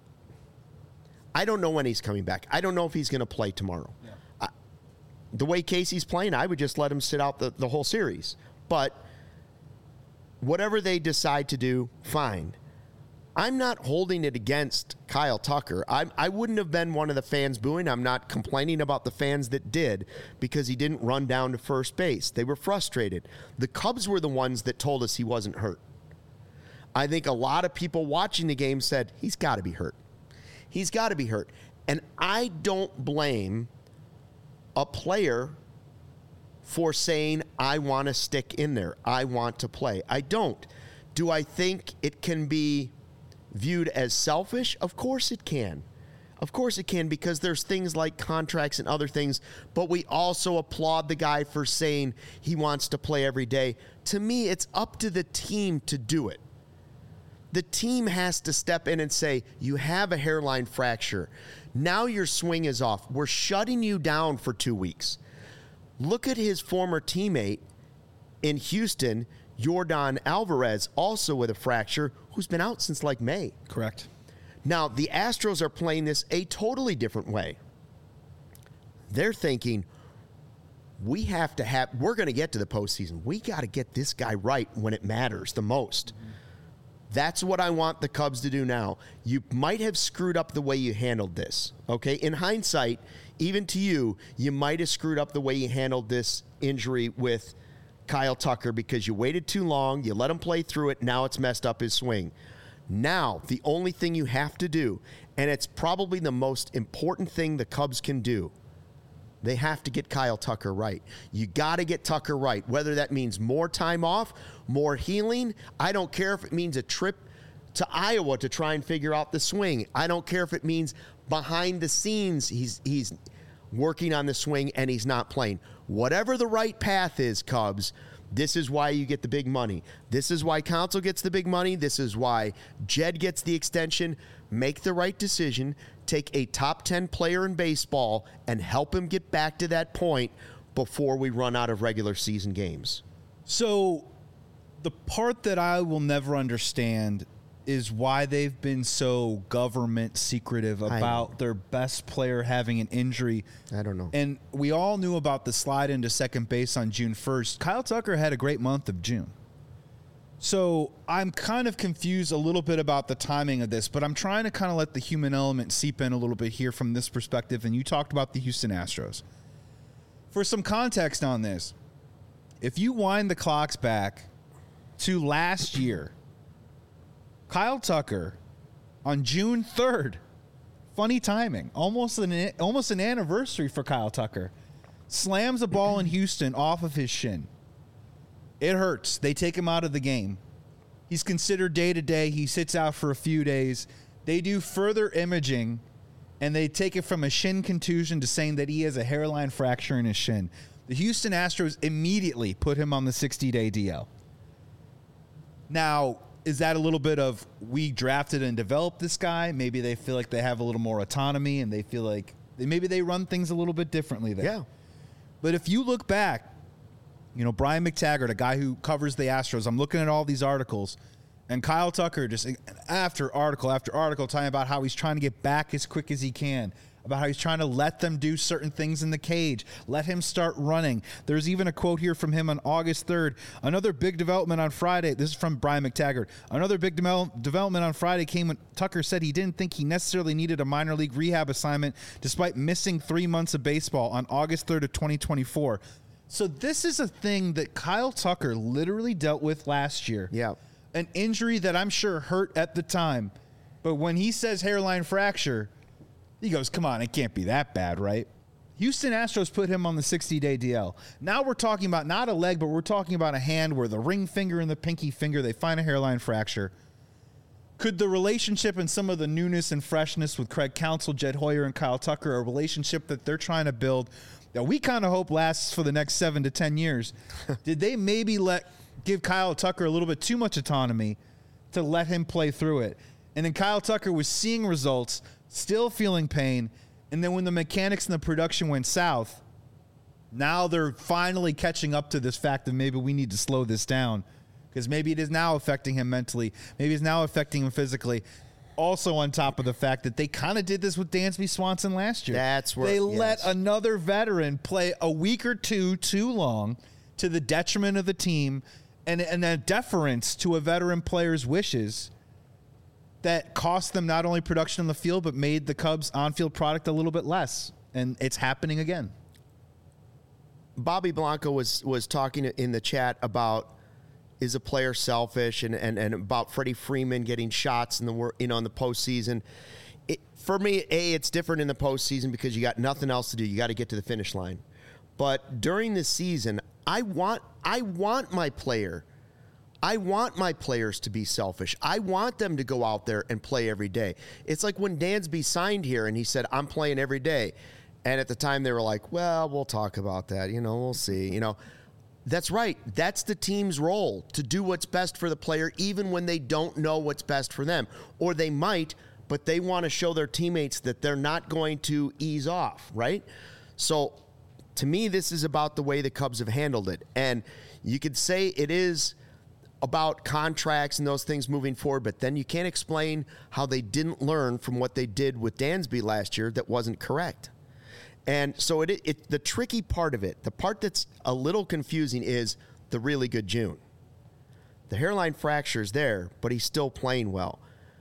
I don't know when he's coming back. I don't know if he's going to play tomorrow. Yeah. I, the way Casey's playing, I would just let him sit out the, the whole series. But whatever they decide to do, fine. I'm not holding it against Kyle Tucker. I, I wouldn't have been one of the fans booing. I'm not complaining about the fans that did because he didn't run down to first base. They were frustrated. The Cubs were the ones that told us he wasn't hurt. I think a lot of people watching the game said, he's got to be hurt. He's got to be hurt. And I don't blame a player for saying, I want to stick in there. I want to play. I don't. Do I think it can be viewed as selfish? Of course it can. Of course it can, because there's things like contracts and other things, but we also applaud the guy for saying he wants to play every day. To me, it's up to the team to do it. The team has to step in and say, you have a hairline fracture. Now your swing is off. We're shutting you down for two weeks. Look at his former teammate in Houston, Yordan Alvarez, also with a fracture, who's been out since like May. Correct. Now, the Astros are playing this a totally different way. They're thinking, we have to have, we're going to get to the postseason. We got to get this guy right when it matters the most. Mm-hmm. That's what I want the Cubs to do now. You might have screwed up the way you handled this, okay? In hindsight, even to you, you might have screwed up the way you handled this injury with Kyle Tucker because you waited too long, you let him play through it, now it's messed up his swing. Now, the only thing you have to do, and it's probably the most important thing the Cubs can do, they have to get Kyle Tucker right. You got to get Tucker right, whether that means more time off, more healing. I don't care if it means a trip to Iowa to try and figure out the swing. I don't care if it means behind the scenes he's he's working on the swing and he's not playing. Whatever the right path is, Cubs, this is why you get the big money. This is why Counsell gets the big money. This is why Jed gets the extension. Make the right decision. Take a top ten player in baseball and help him get back to that point before we run out of regular season games. So the part that I will never understand is why they've been so government secretive about their best player having an injury. I don't know. And we all knew about the slide into second base on June first. Kyle Tucker had a great month of June. So I'm kind of confused a little bit about the timing of this, but I'm trying to kind of let the human element seep in a little bit here from this perspective. And you talked about the Houston Astros. For some context on this, if you wind the clocks back to last year, Kyle Tucker on June third, funny timing, almost an almost an anniversary for Kyle Tucker, slams a ball in Houston off of his shin. It hurts. They take him out of the game. He's considered day-to-day. He sits out for a few days. They do further imaging, and they take it from a shin contusion to saying that he has a hairline fracture in his shin. The Houston Astros immediately put him on the sixty-day D L. Now, is that a little bit of we drafted and developed this guy? Maybe they feel like they have a little more autonomy and they feel like they, maybe they run things a little bit differently there. Yeah. But if you look back, you know, Brian McTaggart, a guy who covers the Astros, I'm looking at all these articles, and Kyle Tucker just after article after article talking about how he's trying to get back as quick as he can, about how he's trying to let them do certain things in the cage, let him start running. There's even a quote here from him on August third. Another big development on Friday. This is from Brian McTaggart. Another big de- development on Friday came when Tucker said he didn't think he necessarily needed a minor league rehab assignment despite missing three months of baseball on August third of twenty twenty-four. So this is a thing that Kyle Tucker literally dealt with last year. Yeah. An injury that I'm sure hurt at the time. But when he says hairline fracture, he goes, come on, it can't be that bad, right? Houston Astros put him on the sixty-day D L. Now we're talking about not a leg, but we're talking about a hand where the ring finger and the pinky finger, they find a hairline fracture. Could the relationship and some of the newness and freshness with Craig Counsell, Jed Hoyer, and Kyle Tucker, a relationship that they're trying to build that we kind of hope lasts for the next seven to ten years, did they maybe let give Kyle Tucker a little bit too much autonomy to let him play through it? And then Kyle Tucker was seeing results, still feeling pain, and then when the mechanics and the production went south, now they're finally catching up to this fact that maybe we need to slow this down because maybe it is now affecting him mentally. Maybe it's now affecting him physically. Also on top of the fact that they kind of did this with Dansby Swanson last year. That's where they yes. let another veteran play a week or two too long to the detriment of the team and, and a deference to a veteran player's wishes that cost them not only production on the field, but made the Cubs on-field product a little bit less. And it's happening again. Bobby Blanco was was talking in the chat about is a player selfish and, and, and about Freddie Freeman getting shots in the you know in the postseason. It, for me, A, it's different in the postseason because you got nothing else to do. You got to get to the finish line. But during the season, I want I want my player I want my players to be selfish. I want them to go out there and play every day. It's like when Dansby signed here and he said, I'm playing every day. And at the time they were like, well, we'll talk about that. You know, we'll see. You know, that's right. That's the team's role, to do what's best for the player, even when they don't know what's best for them. Or they might, but they want to show their teammates that they're not going to ease off, right? So to me, this is about the way the Cubs have handled it. And you could say it is about contracts and those things moving forward, but then you can't explain how they didn't learn from what they did with Dansby last year that wasn't correct. And so it, it the tricky part of it, the part that's a little confusing is the really good June. The hairline fracture is there, but he's still playing well.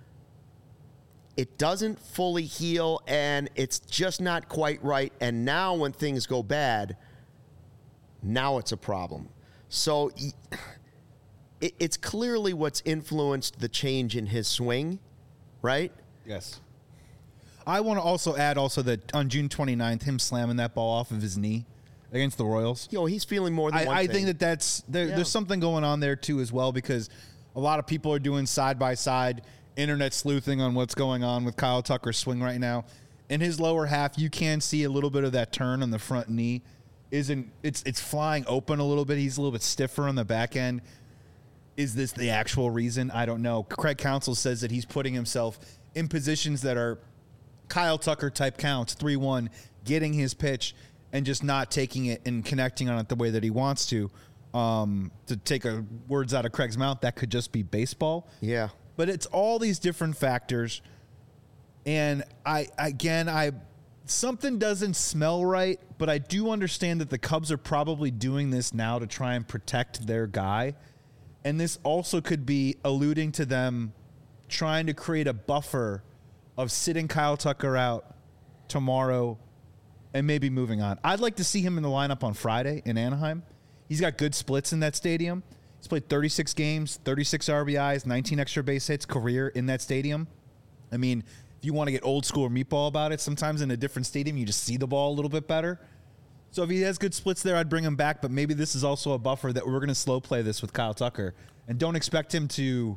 It doesn't fully heal, and it's just not quite right. And now when things go bad, now it's a problem. So it's clearly what's influenced the change in his swing, right? Yes. I want to also add also that on June twenty-ninth, him slamming that ball off of his knee against the Royals. You know, he's feeling more than I, one I thing. think that that's there, Yeah. there's something going on there too as well, because a lot of people are doing side by side internet sleuthing on what's going on with Kyle Tucker's swing right now. In his lower half, you can see a little bit of that turn on the front knee. Isn't it's it's flying open a little bit. He's a little bit stiffer on the back end. Is this the actual reason? I don't know. Craig Counsell says that he's putting himself in positions that are Kyle Tucker type counts, three one, getting his pitch and just not taking it and connecting on it the way that he wants to. Um, to take a, words out of Craig's mouth, that could just be baseball. Yeah. But it's all these different factors. And I, again, I, something doesn't smell right, but I do understand that the Cubs are probably doing this now to try and protect their guy. And this also could be alluding to them trying to create a buffer of sitting Kyle Tucker out tomorrow and maybe moving on. I'd like to see him in the lineup on Friday in Anaheim. He's got good splits in that stadium. He's played thirty-six games, thirty-six R B Is, nineteen extra base hits career in that stadium. I mean, if you want to get old school or meatball about it, sometimes in a different stadium, you just see the ball a little bit better. So if he has good splits there, I'd bring him back. But maybe this is also a buffer that we're going to slow play this with Kyle Tucker. And don't expect him to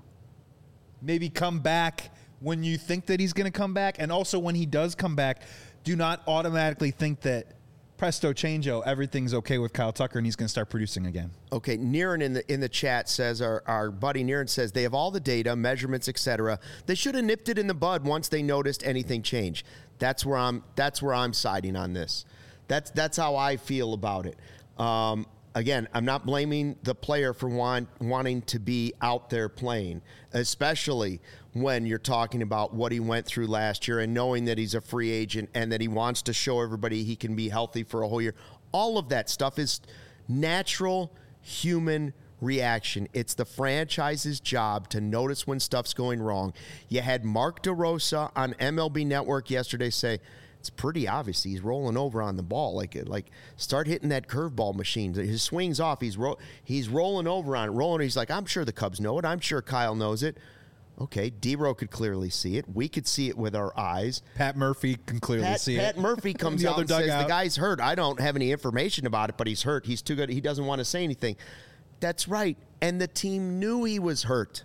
maybe come back when you think that he's going to come back. And also when he does come back, do not automatically think that presto changeo, everything's okay with Kyle Tucker and he's going to start producing again. Okay, Niren in the in the chat says, our, our buddy Niren says, they have all the data, measurements, et cetera. They should have nipped it in the bud once they noticed anything change. That's where I'm that's where I'm siding on this. That's that's how I feel about it. Um, again, I'm not blaming the player for want, wanting to be out there playing, especially when you're talking about what he went through last year and knowing that he's a free agent and that he wants to show everybody he can be healthy for a whole year. All of that stuff is natural human reaction. It's the franchise's job to notice when stuff's going wrong. You had Mark DeRosa on M L B Network yesterday say, it's pretty obvious he's rolling over on the ball. Like, like start hitting that curveball machine. His swing's off. He's ro- he's rolling over on it, rolling. He's like, I'm sure the Cubs know it. I'm sure Kyle knows it. Okay, D-Row could clearly see it. We could see it with our eyes. Pat Murphy can clearly Pat, see Pat it. Pat Murphy comes the out other and says, dugout. the guy's hurt. I don't have any information about it, but he's hurt. He's too good. He doesn't want to say anything. That's right. And the team knew he was hurt.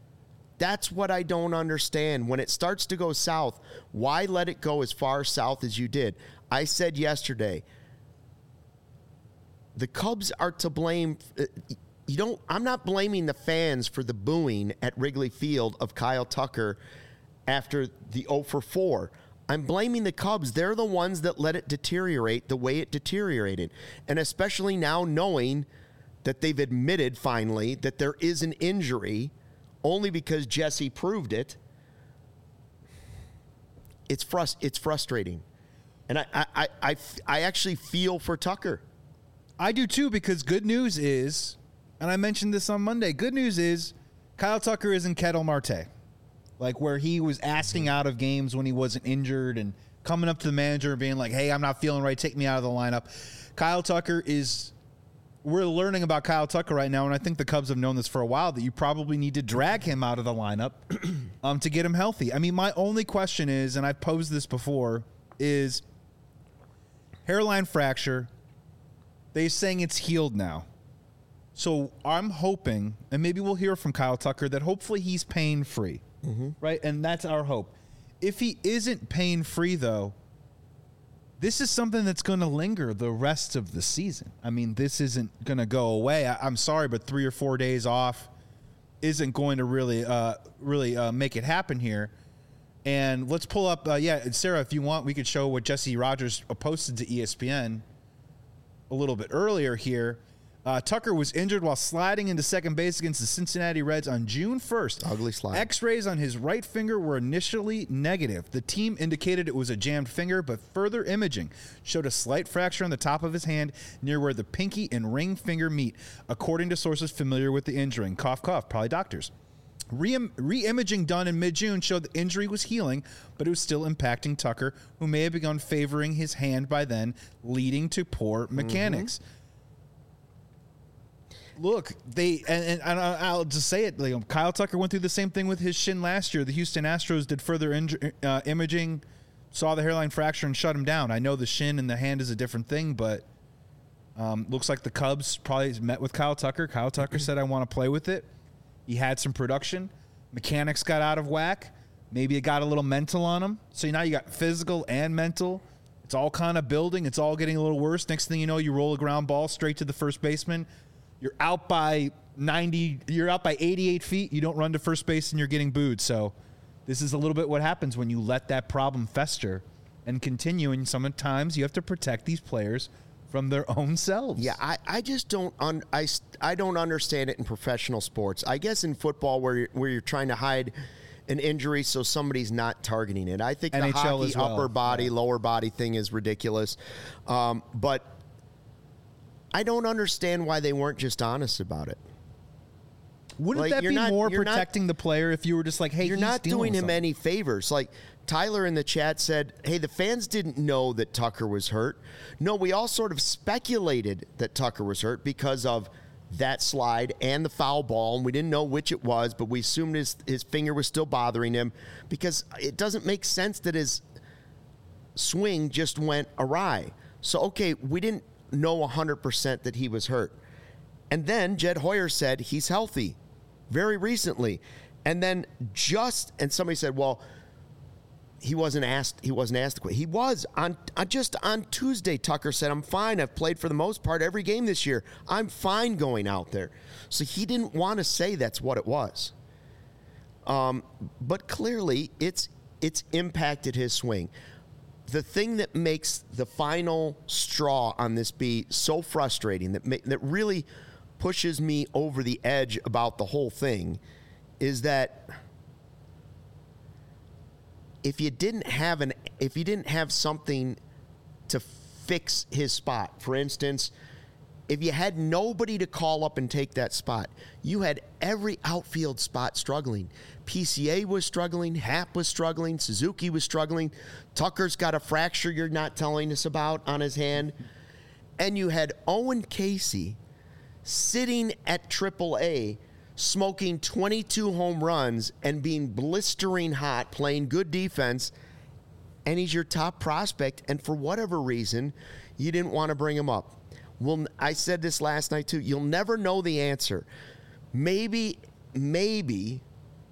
That's what I don't understand. When it starts to go south, why let it go as far south as you did? I said yesterday, the Cubs are to blame. You don't. I'm not blaming the fans for the booing at Wrigley Field of Kyle Tucker after the oh for four. I'm blaming the Cubs. They're the ones that let it deteriorate the way it deteriorated. And especially now knowing that they've admitted finally that there is an injury only because Jesse proved it. It's frust- It's frustrating. And I, I, I, I, I actually feel for Tucker. I do too, because good news is, and I mentioned this on Monday, good news is Kyle Tucker isn't Ketel Marte. Like where he was asking out of games when he wasn't injured and coming up to the manager and being like, hey, I'm not feeling right, take me out of the lineup. Kyle Tucker is, we're learning about Kyle Tucker right now, and I think the Cubs have known this for a while, that you probably need to drag him out of the lineup um, to get him healthy. I mean, my only question is, and I've posed this before, is hairline fracture. They're saying it's healed now. So I'm hoping, and maybe we'll hear from Kyle Tucker, that hopefully he's pain-free, mm-hmm. right? And that's our hope. If he isn't pain-free, though, this is something that's going to linger the rest of the season. I mean, this isn't going to go away. I, I'm sorry, but three or four days off isn't going to really, uh, really uh, make it happen here. And let's pull up, uh, yeah, Sarah, if you want, we could show what Jesse Rogers posted to E S P N a little bit earlier here. Uh, Tucker was injured while sliding into second base against the Cincinnati Reds on June first. Ugly slide. X-rays on his right finger were initially negative. The team indicated it was a jammed finger, but further imaging showed a slight fracture on the top of his hand near where the pinky and ring finger meet, according to sources familiar with the injury. Cough, cough, probably doctors. Re- re-imaging done in mid-June showed the injury was healing, but it was still impacting Tucker, who may have begun favoring his hand by then, leading to poor mechanics. Mm-hmm. Look, they and, and I'll just say it. Like, Kyle Tucker went through the same thing with his shin last year. The Houston Astros did further inj- uh, imaging, saw the hairline fracture, and shut him down. I know the shin and the hand is a different thing, but um, looks like the Cubs probably met with Kyle Tucker. Kyle Tucker said, I want to play with it. He had some production. mechanics got out of whack. Maybe it got a little mental on him. So now you got physical and mental. It's all kind of building. It's all getting a little worse. Next thing you know, you roll a ground ball straight to the first baseman. You're out by ninety. You're out by eighty-eight feet. You don't run to first base and you're getting booed. So this is a little bit what happens when you let that problem fester and continue. And sometimes you have to protect these players from their own selves. Yeah, I, I just don't un, I, I don't understand it in professional sports. I guess in football where you're, where you're trying to hide an injury so somebody's not targeting it. I think N H L the hockey as well. upper body, yeah. lower body thing is ridiculous. Um, but I don't understand why they weren't just honest about it. Wouldn't Like, that you're be not- more you're not- protecting the player if you were just like, hey, You're he's not dealing doing with him something? any favors. Like Tyler in the chat said, hey, the fans didn't know that Tucker was hurt. No, we all sort of speculated that Tucker was hurt because of that slide and the foul ball, and we didn't know which it was, but we assumed his, his finger was still bothering him because it doesn't make sense that his swing just went awry. So, okay, we didn't know one hundred percent that he was hurt. And then Jed Hoyer said he's healthy very recently. And then just, and somebody said, well, he wasn't asked, he wasn't asked the question. He was. On, on just on Tuesday, Tucker said, I'm fine. I've played for the most part every game this year. I'm fine going out there. So he didn't want to say that's what it was. Um, but clearly, it's it's impacted his swing. The thing that makes the final straw on this be so frustrating, that ma- that really pushes me over the edge about the whole thing, is that if you didn't have an if you didn't have something to fix his spot, for instance, if you had nobody to call up and take that spot, you had every outfield spot struggling. P C A was struggling, Happ was struggling, Suzuki was struggling, Tucker's got a fracture you're not telling us about on his hand, and you had Owen Casey sitting at triple A smoking twenty-two home runs and being blistering hot, playing good defense, and he's your top prospect, and for whatever reason, you didn't want to bring him up. Well, I said this last night too. You'll never know the answer. Maybe, maybe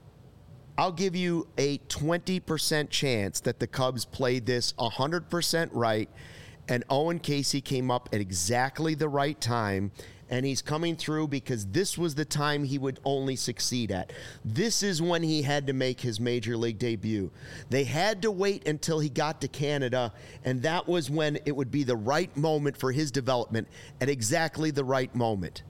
I'll give you a twenty percent chance that the Cubs played this one hundred percent right, and Owen Casey came up at exactly the right time, and he's coming through because this was the time he would only succeed at. This is when he had to make his major league debut. They had to wait until he got to Canada, and that was when it would be the right moment for his development at exactly the right moment.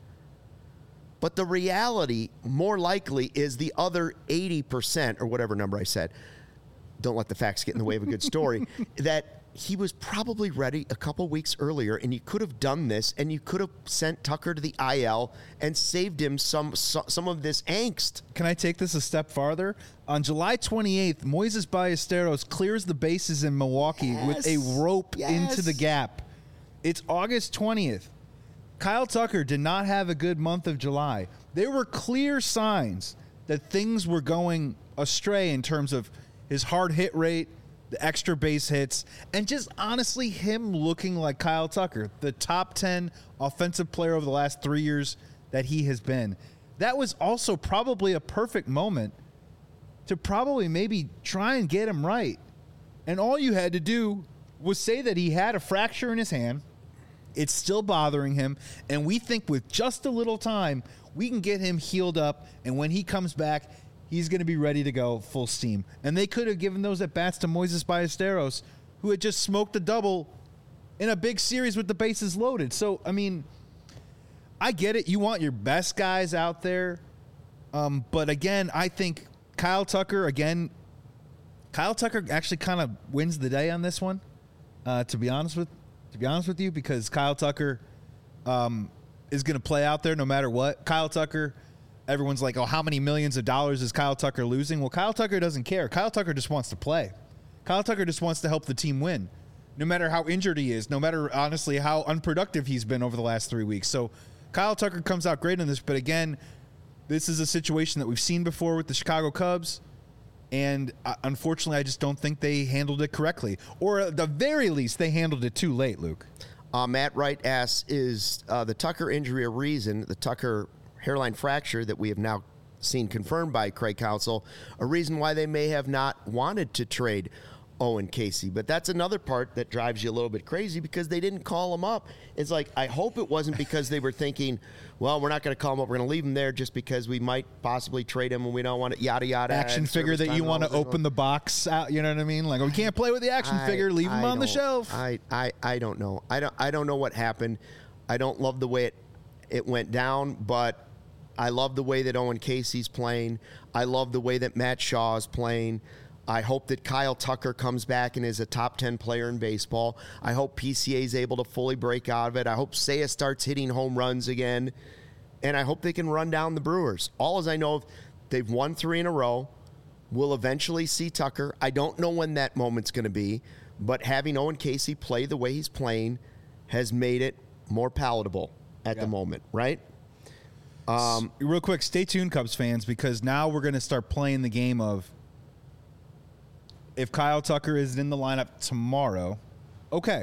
But the reality, more likely, is the other eighty percent, or whatever number I said, don't let the facts get in the way of a good story, that he was probably ready a couple weeks earlier, and you could have done this, and you could have sent Tucker to the I L and saved him some some of this angst. Can I take this a step farther? On July twenty-eighth, Moises Ballesteros clears the bases in Milwaukee Yes. with a rope Yes. into the gap. It's August twentieth. Kyle Tucker did not have a good month of July. There were clear signs that things were going astray in terms of his hard hit rate, the extra base hits, and just honestly him looking like Kyle Tucker, the top ten offensive player over the last three years that he has been. That was also probably a perfect moment to probably maybe try and get him right. And all you had to do was say that he had a fracture in his hand. It's still bothering him, and we think with just a little time, we can get him healed up, and when he comes back, he's going to be ready to go full steam. And they could have given those at-bats to Moises Ballesteros, who had just smoked a double in a big series with the bases loaded. So, I mean, I get it. You want your best guys out there. Um, but, again, I think Kyle Tucker, again, Kyle Tucker actually kind of wins the day on this one, uh, to be honest with to be honest with you, because Kyle Tucker um, is going to play out there no matter what. Kyle Tucker, everyone's like, oh, how many millions of dollars is Kyle Tucker losing? Well, Kyle Tucker doesn't care. Kyle Tucker just wants to play. Kyle Tucker just wants to help the team win, no matter how injured he is, no matter, honestly, how unproductive he's been over the last three weeks. So Kyle Tucker comes out great in this, but again, this is a situation that we've seen before with the Chicago Cubs, and uh, unfortunately, I just don't think they handled it correctly. Or at the very least, they handled it too late, Luke. Uh, Matt Wright asks, is uh, the Tucker injury a reason, the Tucker hairline fracture that we have now seen confirmed by Craig Counsell, a reason why they may have not wanted to trade Owen Casey. But that's another part that drives you a little bit crazy because they didn't call him up. It's like, I hope it wasn't because they were thinking, well, we're not going to call him up. We're going to leave him there just because we might possibly trade him and we don't want to, yada, yada. Action figure that you want to open the box out. You know what I mean? Like, we can't play with the action I, figure. Leave him I on the shelf. I, I, I don't know. I don't, I don't know what happened. I don't love the way it, it went down, but I love the way that Owen Casey's playing. I love the way that Matt Shaw is playing. I hope that Kyle Tucker comes back and is a top ten player in baseball. I hope P C A is able to fully break out of it. I hope Seiya starts hitting home runs again. And I hope they can run down the Brewers. All as I know, they've won three in a row. We'll eventually see Tucker. I don't know when that moment's going to be, but having Owen Casey play the way he's playing has made it more palatable at yeah. the moment, right? Um, Real quick, stay tuned, Cubs fans, because now we're going to start playing the game of if Kyle Tucker is in the lineup tomorrow, okay.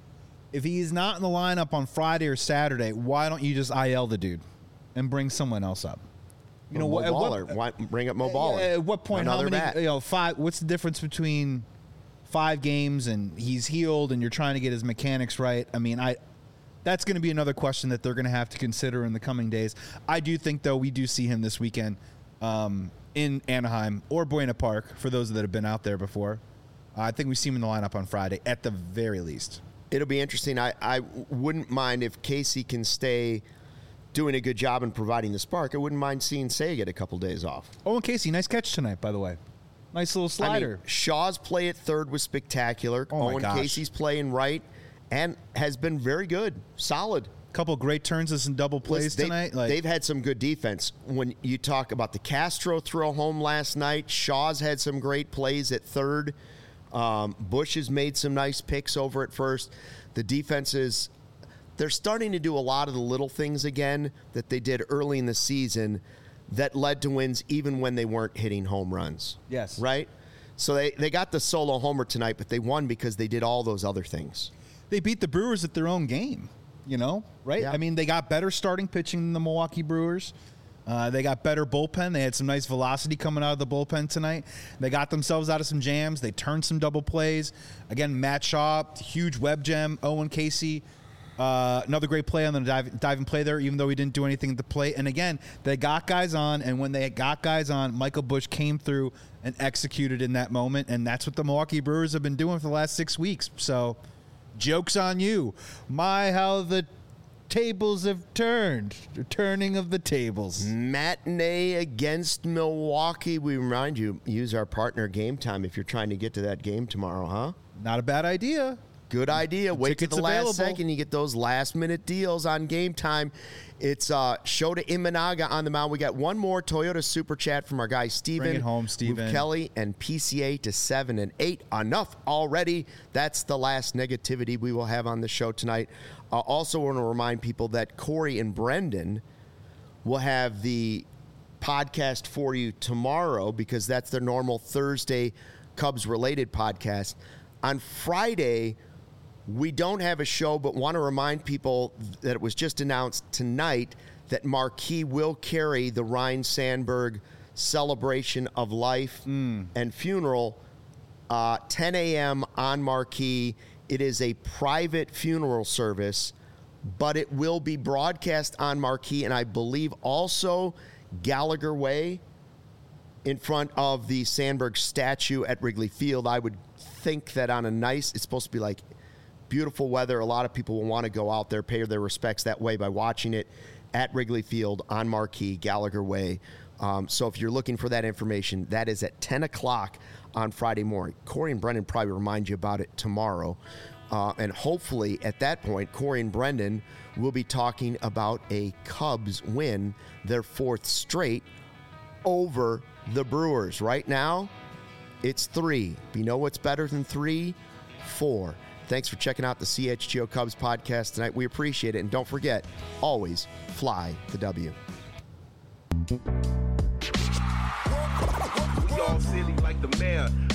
If he's not in the lineup on Friday or Saturday, why don't you just I L the dude and bring someone else up? You know, Mo what, Baller. What, why bring up Mo Baller? At what point? Another how many? bat. You know, five. What's the difference between five games and he's healed and you're trying to get his mechanics right? I mean, I. That's going to be another question that they're going to have to consider in the coming days. I do think, though, we do see him this weekend um, in Anaheim or Buena Park, for those that have been out there before. Uh, I think we see him in the lineup on Friday, at the very least. It'll be interesting. I, I wouldn't mind if Casey can stay doing a good job in providing the spark. I wouldn't mind seeing Seiya get a couple days off. Owen Casey, nice catch tonight, by the way. Nice little slider. I mean, Shaw's play at third was spectacular. Oh my Owen gosh. Casey's playing right. And has been very good, solid. Couple great turns and some double plays Listen, tonight. They've, Like, they've had some good defense. When you talk about the Castro throw home last night, Shaw's had some great plays at third. Um, Bush has made some nice picks over at first. The defense is, they're starting to do a lot of the little things again that they did early in the season that led to wins even when they weren't hitting home runs. Yes. Right? So they, they got the solo homer tonight, but they won because they did all those other things. They beat the Brewers at their own game, you know, right? Yeah. I mean, they got better starting pitching than the Milwaukee Brewers. Uh, they got better bullpen. They had some nice velocity coming out of the bullpen tonight. They got themselves out of some jams. They turned some double plays. Again, Matt Shaw, huge web gem. Owen Casey, uh, another great play on the dive, dive and play there, even though he didn't do anything at the plate. And again, they got guys on, and when they got guys on, Michael Bush came through and executed in that moment, and that's what the Milwaukee Brewers have been doing for the last six weeks. So, joke's on you. My, how the tables have turned. The turning of the tables. Matinee against Milwaukee. We remind you, use our partner Game Time if you're trying to get to that game tomorrow, huh? Not a bad idea. Good idea. Wait till Tickets the last available. second. You get those last-minute deals on Game Time. It's uh, Shota Imanaga on the mound. We got one more Toyota Super Chat from our guy Steven. Bring it home, Steven. Move Kelly and P C A to seven and eight. Enough already. That's the last negativity we will have on the show tonight. I uh, also want to remind people that Corey and Brendan will have the podcast for you tomorrow because that's their normal Thursday Cubs-related podcast. On Friday, we don't have a show, but want to remind people that it was just announced tonight that Marquee will carry the Ryne Sandberg celebration of life mm. and funeral, uh, ten a.m. on Marquee. It is a private funeral service, but it will be broadcast on Marquee, and I believe also Gallagher Way in front of the Sandberg statue at Wrigley Field. I would think that on a nice, it's supposed to be like beautiful weather. A lot of people will want to go out there, pay their respects that way by watching it at Wrigley Field on Marquee, Gallagher Way. Um, so if you're looking for that information, that is at ten o'clock on Friday morning. Corey and Brendan probably remind you about it tomorrow. Uh, and hopefully at that point, Corey and Brendan will be talking about a Cubs win, their fourth straight over the Brewers. Right now, it's three. You know what's better than three? Four. Thanks for checking out the C H G O Cubs podcast tonight. We appreciate it. And don't forget, always fly the W. We all silly like the mayor.